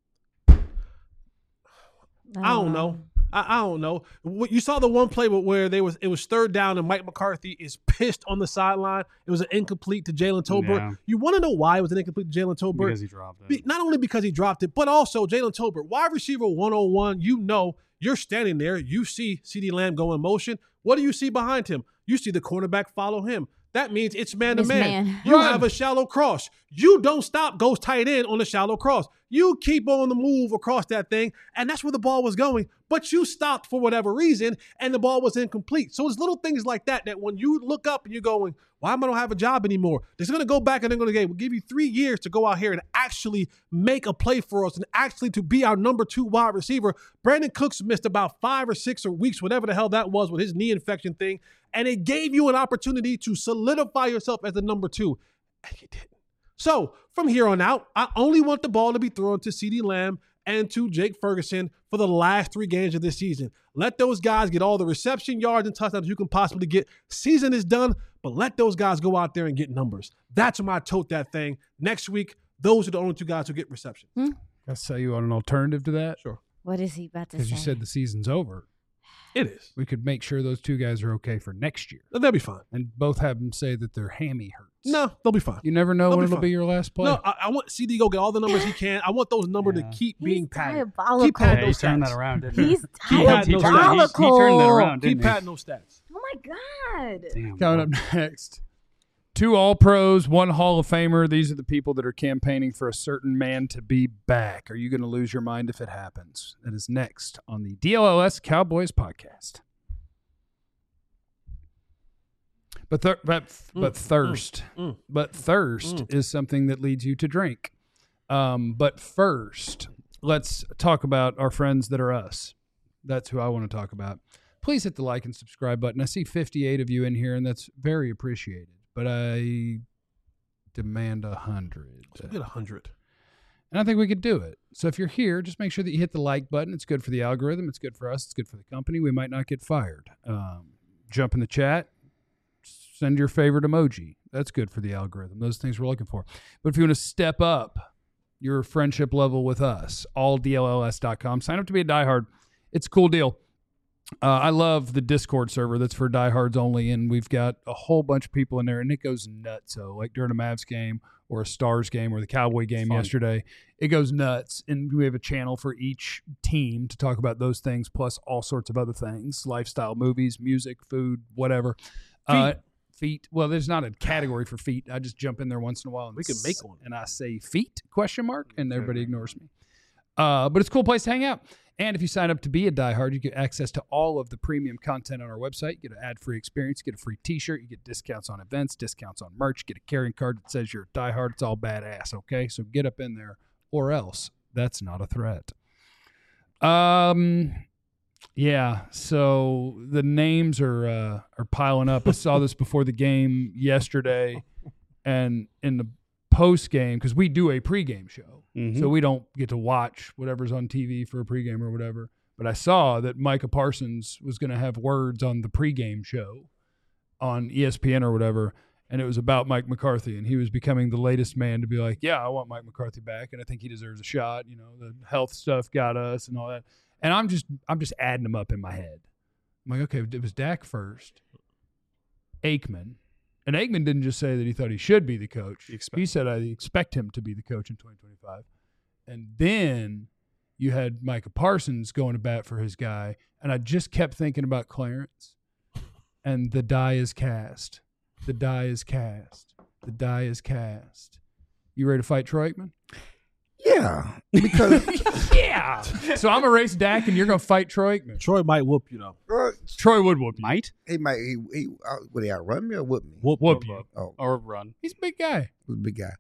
I don't know. I don't know. You saw the one play where it was 3rd down and Mike McCarthy is pissed on the sideline. It was an incomplete to Jalen Tolbert. Yeah. You want to know why it was an incomplete to Jalen Tolbert? Because he dropped it. Not only because he dropped it, but also Jalen Tolbert, wide receiver 101. You're standing there. You see CeeDee Lamb go in motion. What do you see behind him? You see the cornerback follow him. That means it's man-to-man. You have a shallow cross. You don't stop, goes tight end on the shallow cross. You keep on the move across that thing, and that's where the ball was going. But you stopped for whatever reason, and the ball was incomplete. So it's little things like that when you look up and you're going, why am I don't have a job anymore? They're going to go back and they're going to we'll give you 3 years to go out here and actually make a play for us and actually to be our number 2 wide receiver. Brandon Cooks missed about 5 or 6 weeks, whatever the hell that was with his knee infection thing, and it gave you an opportunity to solidify yourself as the number 2, and you didn't. So from here on out, I only want the ball to be thrown to CeeDee Lamb and to Jake Ferguson for the last 3 games of this season. Let those guys get all the reception yards and touchdowns you can possibly get. Season is done, but let those guys go out there and get numbers. That's my tote that thing. Next week, those are the only 2 guys who get reception. I'll tell you on an alternative to that. Sure. What is he about to say? Because you said the season's over. It is. We could make sure those 2 guys are okay for next year. They'll be fine. And both have them say that their hammy hurts. No, they'll be fine. You never know They'll when be it'll fine. be your last play. No, I want CD to go get all the numbers he can. I want those numbers to keep being He's padded. diabolical. Keep padding Yeah, he those turned stats. that around, didn't he? He's He had no diabolical. He turned that around, Keep didn't he? padding those stats. Oh my god. Damn, Coming bro. up next, 2 All-Pros, 1 Hall of Famer. These are the people that are campaigning for a certain man to be back. Are you going to lose your mind if it happens? That is next on the DLLS Cowboys podcast. But thirst is something that leads you to drink. But first, let's talk about our friends that are us. That's who I want to talk about. Please hit the like and subscribe button. I see 58 of you in here, and that's very appreciated. But I demand 100. Let's get 100. And I think we could do it. So if you're here, just make sure that you hit the like button. It's good for the algorithm. It's good for us. It's good for the company. We might not get fired. Jump in the chat. Send your favorite emoji. That's good for the algorithm. Those things we're looking for. But if you want to step up your friendship level with us, alldlls.com. Sign up to be a diehard. It's a cool deal. I love the Discord server that's for diehards only, and we've got a whole bunch of people in there, and it goes nuts. So, like during a Mavs game or a Stars game or the Cowboy game yesterday, it goes nuts. And we have a channel for each team to talk about those things, plus all sorts of other things, lifestyle, movies, music, food, whatever. Feet. Well, there's not a category for feet. I just jump in there once in a while. And we can make one. And I say feet, ? And everybody ignores me. But it's a cool place to hang out. And if you sign up to be a diehard, you get access to all of the premium content on our website. You get an ad-free experience. You get a free T-shirt. You get discounts on events, discounts on merch. You get a carrying card that says you're a diehard. It's all badass, okay? So get up in there, or else that's not a threat. Yeah, so the names are piling up. I saw this before the game yesterday, and in the post game, because we do a pregame show, so we don't get to watch whatever's on TV for a pregame or whatever. But I saw that Micah Parsons was going to have words on the pregame show on ESPN or whatever, and it was about Mike McCarthy, and he was becoming the latest man to be like, yeah, I want Mike McCarthy back, and I think he deserves a shot. You know, the health stuff got us and all that. And I'm just adding them up in my head. I'm like, okay, it was Dak first, Aikman. And Aikman didn't just say that he thought he should be the coach. He said, I expect him to be the coach in 2025. And then you had Micah Parsons going to bat for his guy. And I just kept thinking about Clarence. And the die is cast. The die is cast. The die is cast. You ready to fight Troy Aikman? Yeah, because yeah. So I'm gonna race Dak, and you're gonna fight Troy Aikman. Troy might whoop you though. Troy would whoop you. Might he might. Would he outrun me or whoop me? Whoop you. Oh, or run. He's a big guy. he's a big guy.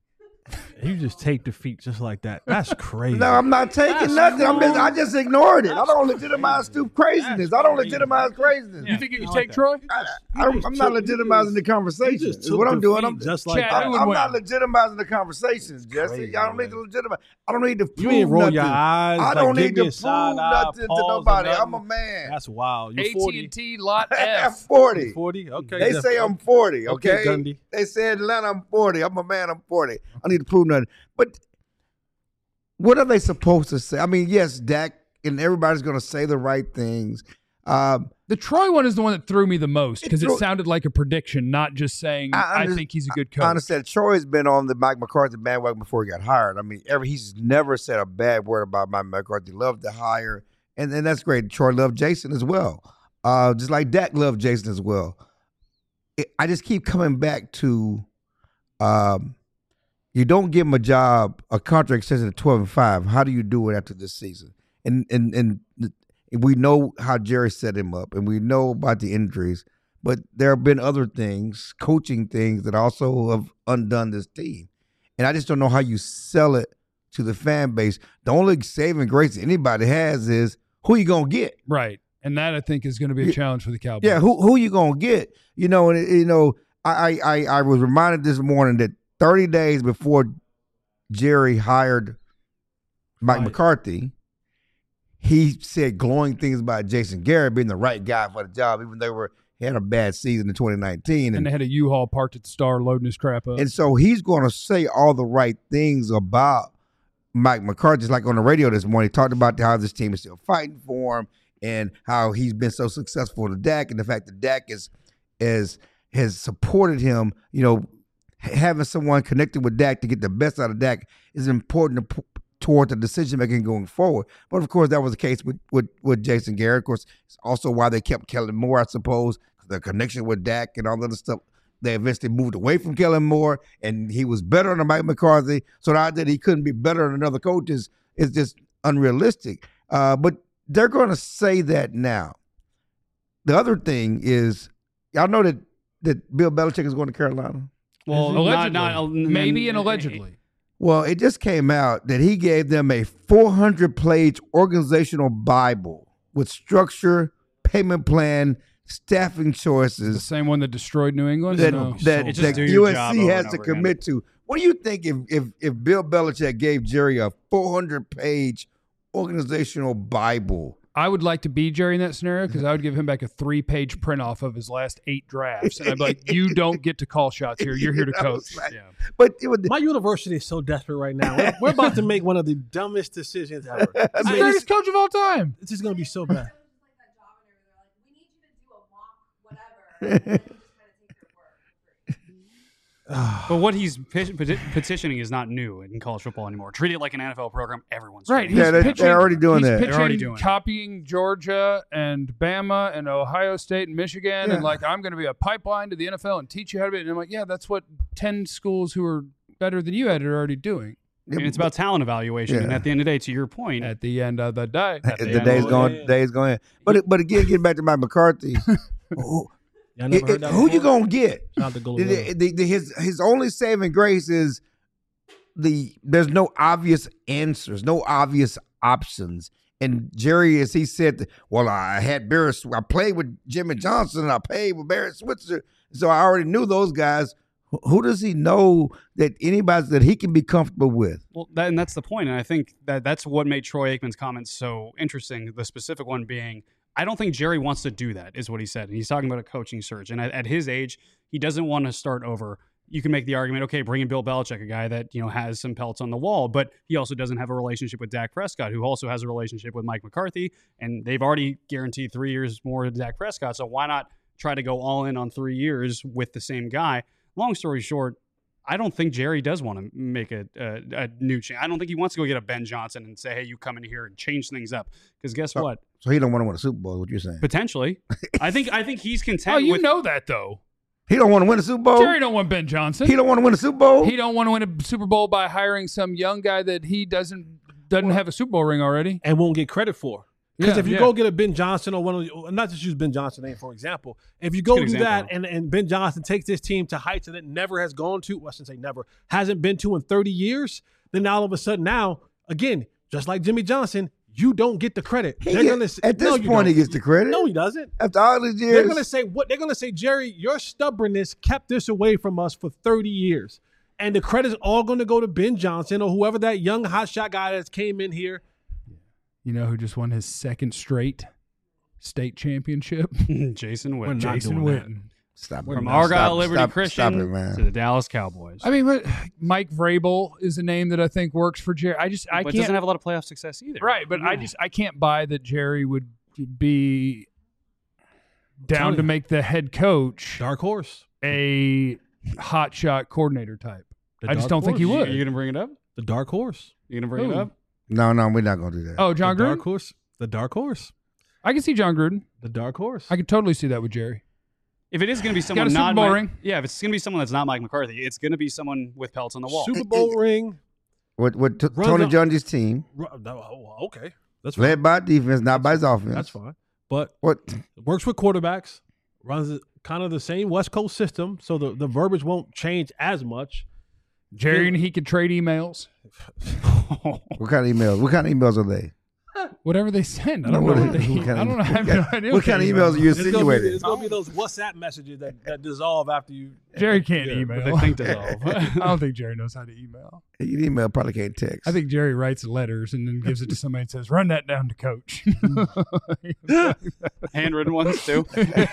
You just take defeat just like that. That's crazy. No, I'm not taking nothing. I just ignored it. I don't legitimize stupid craziness. I don't legitimize craziness. You think you can take Troy? I'm not legitimizing the conversation. Is what I'm doing. I'm just like Chad, I'm not legitimizing the conversations, Jesse. I don't need to legitimize. I don't need to prove you ain't roll nothing. your eyes. I don't like, need to prove nothing to nobody. I'm a man. That's wild. You're 40. AT&T Lot I'm F. 40. 40? Okay. They say I'm 40, okay? Gundy. They say in Atlanta I'm 40. I'm a man, I'm 40. I need to prove nothing. But what are they supposed to say? I mean, yes, Dak, and everybody's going to say the right things. The Troy one is the one that threw me the most because it sounded like a prediction, not just saying, I think he's a good coach. I understand. Troy's been on the Mike McCarthy bandwagon before he got hired. I mean, he's never said a bad word about Mike McCarthy. Loved the hire, and that's great. Troy loved Jason as well, just like Dak loved Jason as well. I just keep coming back to you don't give him a contract extension at 12-5. How do you do it after this season? And we know how Jerry set him up, and we know about the injuries, but there have been other things, coaching things, that also have undone this team. And I just don't know how you sell it to the fan base. The only saving grace anybody has is who you going to get. Right. And that, I think, is going to be a challenge for the Cowboys. Yeah, who you going to get? You know, and I was reminded this morning that 30 days before Jerry hired Mike McCarthy, he said glowing things about Jason Garrett being the right guy for the job, even though he had a bad season in 2019. And they had a U-Haul parked at the Star loading his crap up. And so he's going to say all the right things about Mike McCarthy. Just like on the radio this morning, he talked about how this team is still fighting for him and how he's been so successful to Dak, and the fact that Dak has supported him. You know, having someone connected with Dak to get the best out of Dak is important toward the decision making going forward. But of course, that was the case with Jason Garrett. Of course, it's also why they kept Kellen Moore, I suppose, the connection with Dak and all that other stuff They eventually moved away from Kellen Moore, and he was better than Mike McCarthy. So the idea that he couldn't be better than another coach is just unrealistic. But they're going to say that now. The other thing is, y'all know that Bill Belichick is going to Carolina? Well, allegedly. Maybe and allegedly. Well, it just came out that he gave them a 400-page organizational Bible with structure, payment plan, staffing choices. The same one that destroyed New England? That USC has to commit to. What do you think if Bill Belichick gave Jerry a 400-page organizational Bible? I would like to be Jerry in that scenario because I would give him back a 3-page print off of his last 8 drafts. And I'd be like, you don't get to call shots here. You're here to coach. Like, yeah. But my university is so desperate right now. We're about to make one of the dumbest decisions ever. He's the greatest coach of all time. This is going to be so bad. But what he's petitioning is not new in college football anymore. Treat it like an NFL program. Everyone's right. They're already doing that. They're already doing copying Georgia and Bama and Ohio State and Michigan, and like I'm going to be a pipeline to the NFL and teach you how to be. And I'm like, yeah, that's what 10 schools who are better than you are already doing. And it's about talent evaluation. And at the end of the day, to your point, at the end of the day, the day's going. But again, getting back to Mike McCarthy. Who you gonna get? His only saving grace is there's no obvious answers, no obvious options. And Jerry, as he said, well, I played with Jimmy Johnson, and I played with Barry Switzer, so I already knew those guys. Who does he know that anybody that he can be comfortable with? Well, that's the point, and I think that's what made Troy Aikman's comments so interesting. The specific one being, I don't think Jerry wants to do that, is what he said. And he's talking about a coaching search. And at his age, he doesn't want to start over. You can make the argument, okay, bring in Bill Belichick, a guy that has some pelts on the wall, but he also doesn't have a relationship with Dak Prescott, who also has a relationship with Mike McCarthy, and they've already guaranteed 3 years more to Dak Prescott. So why not try to go all in on 3 years with the same guy? Long story short, I don't think Jerry does want to make a new change. I don't think he wants to go get a Ben Johnson and say, hey, you come in here and change things up. Because guess what? So he don't want to win a Super Bowl, is what you're saying? Potentially. I think he's content. Oh, you know that, though. He don't want to win a Super Bowl? Jerry don't want Ben Johnson. He don't want to win a Super Bowl? He don't want to win a Super Bowl by hiring some young guy that he doesn't have a Super Bowl ring already. And won't get credit for. Because if you go get a Ben Johnson or not just use Ben Johnson name for example, if you go do that and Ben Johnson takes this team to heights that it never has gone to, well, I shouldn't say never, hasn't been to in 30 years, then all of a sudden now, again, just like Jimmy Johnson, you don't get the credit. At this point, he gets the credit. No, he doesn't. After all these years, they're going to say, Jerry, your stubbornness kept this away from us for 30 years, and the credit's all going to go to Ben Johnson or whoever that young hotshot guy that came in here. You know who just won his second straight state championship? Jason Witten. Jason Witten. From Argyle Liberty Christian to the Dallas Cowboys. I mean, but Mike Vrabel is a name that I think works for Jerry. I can't, doesn't have a lot of playoff success either. Right, but I can't buy that Jerry would be down to make the head coach dark horse a hotshot coordinator type. I just don't think he would. Are you going to bring it up? The dark horse. You going to bring it up? No, we're not going to do that. Oh, John Gruden? Dark horse. The dark horse. I can see John Gruden. The dark horse. I could totally see that with Jerry. If it is going to be someone not Super Bowl ring. Yeah, if it's going to be someone that's not Mike McCarthy, it's going to be someone with pelts on the wall. Super Bowl ring. With Tony Dungy's team. Okay. That's fine. Led by defense, not by his offense. That's fine. But what works with quarterbacks, runs kind of the same West Coast system, so the verbiage won't change as much. Jerry and he could trade emails. What kind of emails? What kind of emails are they? Whatever they send. I don't know. I have no idea. What kind of emails are you insinuating? It's going to be those WhatsApp messages that dissolve after you. Jerry can't email. They think dissolve. I don't think Jerry knows how to email. You email probably can't text. I think Jerry writes letters and then gives it to somebody and says, run that down to coach. Handwritten ones too.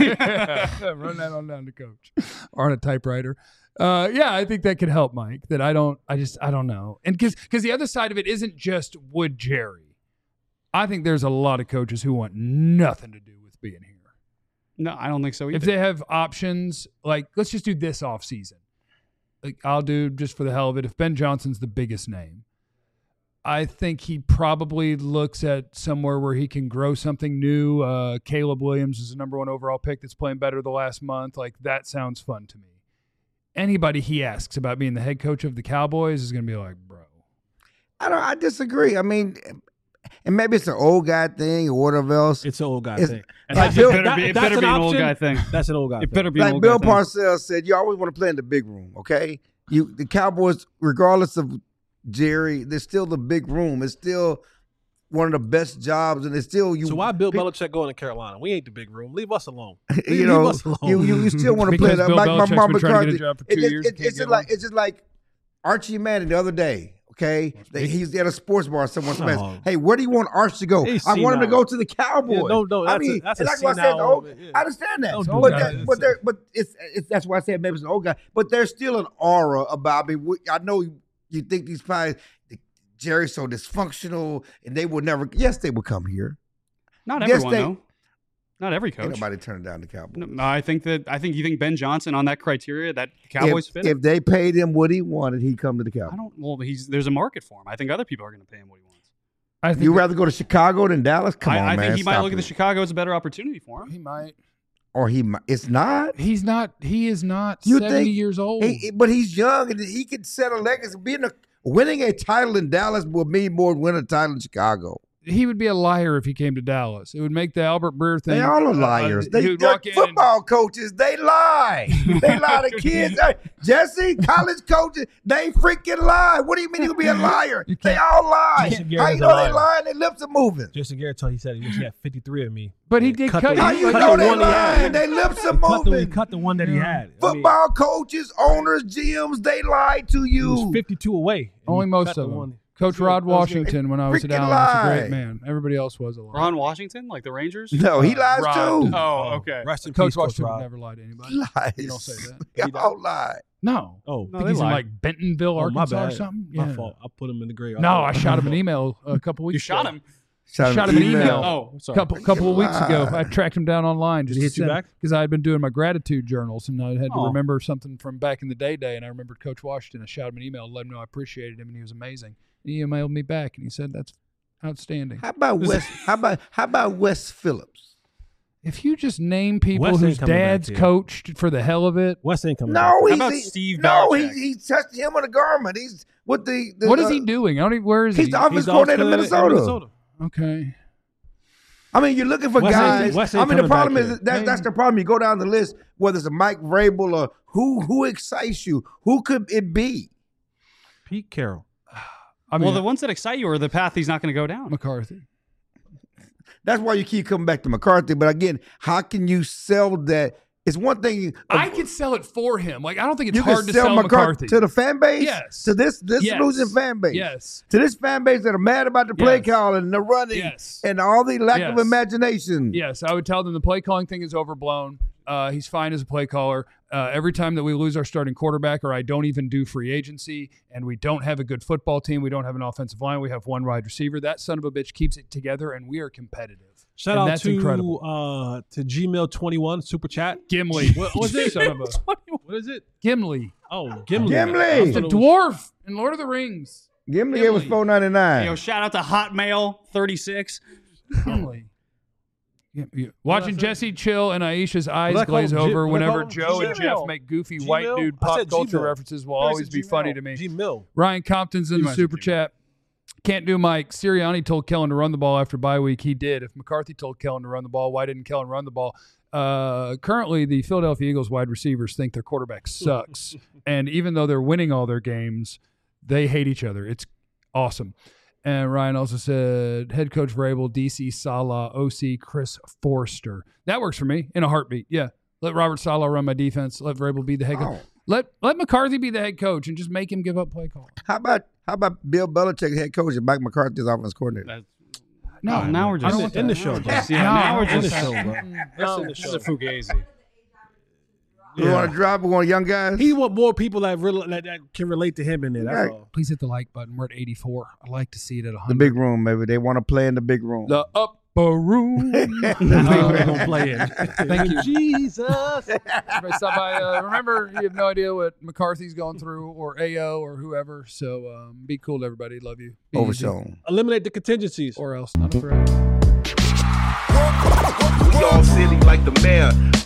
Run that on down to coach. Or on a typewriter. I think that could help Mike. That I don't know. And because the other side of it isn't just would Jerry. I think there's a lot of coaches who want nothing to do with being here. No, I don't think so either. If they have options, like let's just do this offseason. Like I'll do just for the hell of it. If Ben Johnson's the biggest name, I think he probably looks at somewhere where he can grow something new. Caleb Williams is the #1 overall pick that's playing better the last month. Like that sounds fun to me. anybody he asks about being the head coach of the Cowboys is going to be like, bro. I disagree. I mean, and maybe it's an old guy thing or whatever else. It's an old guy It's- thing. Like That's- Bill- It better be an old guy thing. That's an old guy It thing. better be an Like old Bill guy thing. Parcells said, you always want to play in the big room, okay? The Cowboys, regardless of Jerry, there's still the big room. It's still one of the best jobs, and it's still you. So why Bill Belichick going to Carolina? We ain't the big room. Leave us alone. You know, Leave us alone. you still want to play Because that. Bill Like my Belichick's mom been trying to get a McCarthy. job for 2 years and can't It's get just like Archie Manning the other day. Okay, he's at a sports bar. Someone says, "Hey, where do you want Arch to go? He's I want him to senile. go to the Cowboys." Yeah, no, I that's mean, that's and a that's why I said, senile, yeah. I understand that, Don't do that. but it's that's why I said maybe it's an old guy. But there's still an aura about me. I know you think these guys, Jerry's so dysfunctional, and they will never. Yes, they will come here. Not Yes, everyone, though. Not every Ain't coach. nobody turning down the Cowboys. No, I think you think Ben Johnson on that criteria that the Cowboys fit. If they paid him what he wanted, he'd come to the Cowboys. I don't. Well, there's a market for him. I think other people are going to pay him what he wants. I think You rather go to Chicago than Dallas? Come on, I man. think he might stop look at the it. Chicago as a better opportunity for him. he might. Or he might. It's not. He's not. He is not You 70 think- years old. But he's young and he could set a legacy. Winning a title in Dallas would mean more than winning a title in Chicago. He would be a liar if he came to Dallas. It would make the Albert Breer thing. They all are liars. he They're would walk in football coaches. They lie. They lie to kids. Hey, Jesse, college coaches, they freaking lie. What do you mean you be a liar? You They can't- all lie. Jason How Garrett's you a know they liar. lying? Their lips are moving. Jason Garrett told he said he wish he had 53 of me. But he did cut. the- How you cut know the they one he had. lying? Their lips are He moving. cut the one that he had. I mean, Football coaches, owners, GMs, they lied to he was you. 52 away. and Only he most cut of the them. one. Coach Rod Washington, when I was at Freaking Allen, was a lie. great man. Everybody else was a liar. Ron Washington, like the Rangers. No, he lies Rod. too. Oh, okay. Rest in Coach peace, Coach Washington Rod. would never lie to anybody. Lies. You don't say that. Y'all lie. No. Oh, I No, think they he's in lie. like Bentonville, oh, my Arkansas or bad. something. My Yeah. fault. I put him in the grave. No, I shot him an email a couple weeks You shot ago. him. Shot him an email. Oh, sorry. Couple of weeks ago. Lie. I tracked him down online. Did he hit you back? Because I had been doing my gratitude journals, and I had to Oh. remember something from back in the day, and I remembered Coach Washington. I shot him an email, let him know I appreciated him, and he was amazing. He emailed me back, and he said, "That's outstanding." How about Wes? How about Wes Phillips? If you just name people Wes ain't whose coming back dads here. coached for the hell of it, West ain't coming. No, back. he's about Steve no, Belichick? he touched him on the garment. He's with the what is he doing? I don't even. Where is He's he? the offensive He's the coordinator in offensive coordinator Minnesota. Okay. I mean, you're looking for Wes ain't- guys. Wes I ain't mean, the coming problem back is here. that's the problem. You go down the list, whether it's a Mike Vrabel or who excites you. Who could it be? Pete Carroll. I mean, Well, the ones that excite you are the path he's not going to go down. McCarthy. That's why you keep coming back to McCarthy. But again, how can you sell that? It's one thing. I could sell it for him. Like I don't think it's you hard can to sell sell McCarthy to the fan base. Yes. To this Yes. losing fan base. Yes. To this fan base that are mad about the play Yes. calling and the running Yes. and all the lack of Yes. imagination. Yes, I would tell them the play calling thing is overblown. He's fine as a play caller. Every time that we lose our starting quarterback or I don't even do free agency and we don't have a good football team, we don't have an offensive line, we have one wide receiver, that son of a bitch keeps it together and we are competitive. Shout And out that's to incredible. to Gmail21 super chat. Gimli. What was it? Son of a What is it? Gimli. Oh, Gimli. Gimli! I The thought it was- dwarf in Lord of the Rings. Gimli gave us Gimli. $4.99. Yo, shout out to Hotmail 36. Gimli. Watching Jesse Chill and Aisha's eyes What I call glaze him? over What I call whenever him? Joe and Gmail. Jeff make goofy white Gmail? dude I pop said culture Gmail. references will I always said be Gmail. funny to me. Gmail. Ryan Compton's in You the might say super Gmail. chat. Can't do Mike. Sirianni told Kellen to run the ball after bye week. He did. If McCarthy told Kellen to run the ball, why didn't Kellen run the ball? Currently, the Philadelphia Eagles wide receivers think their quarterback sucks. And even though they're winning all their games, they hate each other. It's awesome. And Ryan also said, head coach Vrabel, DC Saleh, OC Chris Forster. That works for me in a heartbeat. Yeah. Let Robert Saleh run my defense. Let Vrabel be the head coach. Oh. Let McCarthy be the head coach and just make him give up play calling. How about Bill Belichick, head coach, and Mike McCarthy's offense coordinator? That's, No, now we're I don't just want In the that. show, bro. Yeah, No, now we're In the just show, bro. No, in the this show. is a fugazi. We want to drop. We want young guys. He want more people that can relate to him in there. That's Right. all. Please hit the like button. We're at 84. I'd like to see it at the 100. big room, maybe they want to play in the big room. The upper room. That's what we're gonna play in. Thank you. Jesus. Everybody stop by. Remember, you have no idea what McCarthy's going through or AO or whoever. So be cool to everybody. Love you. Be easy. Overshown. Eliminate the contingencies. Or else. Not a threat. We all silly like the mayor.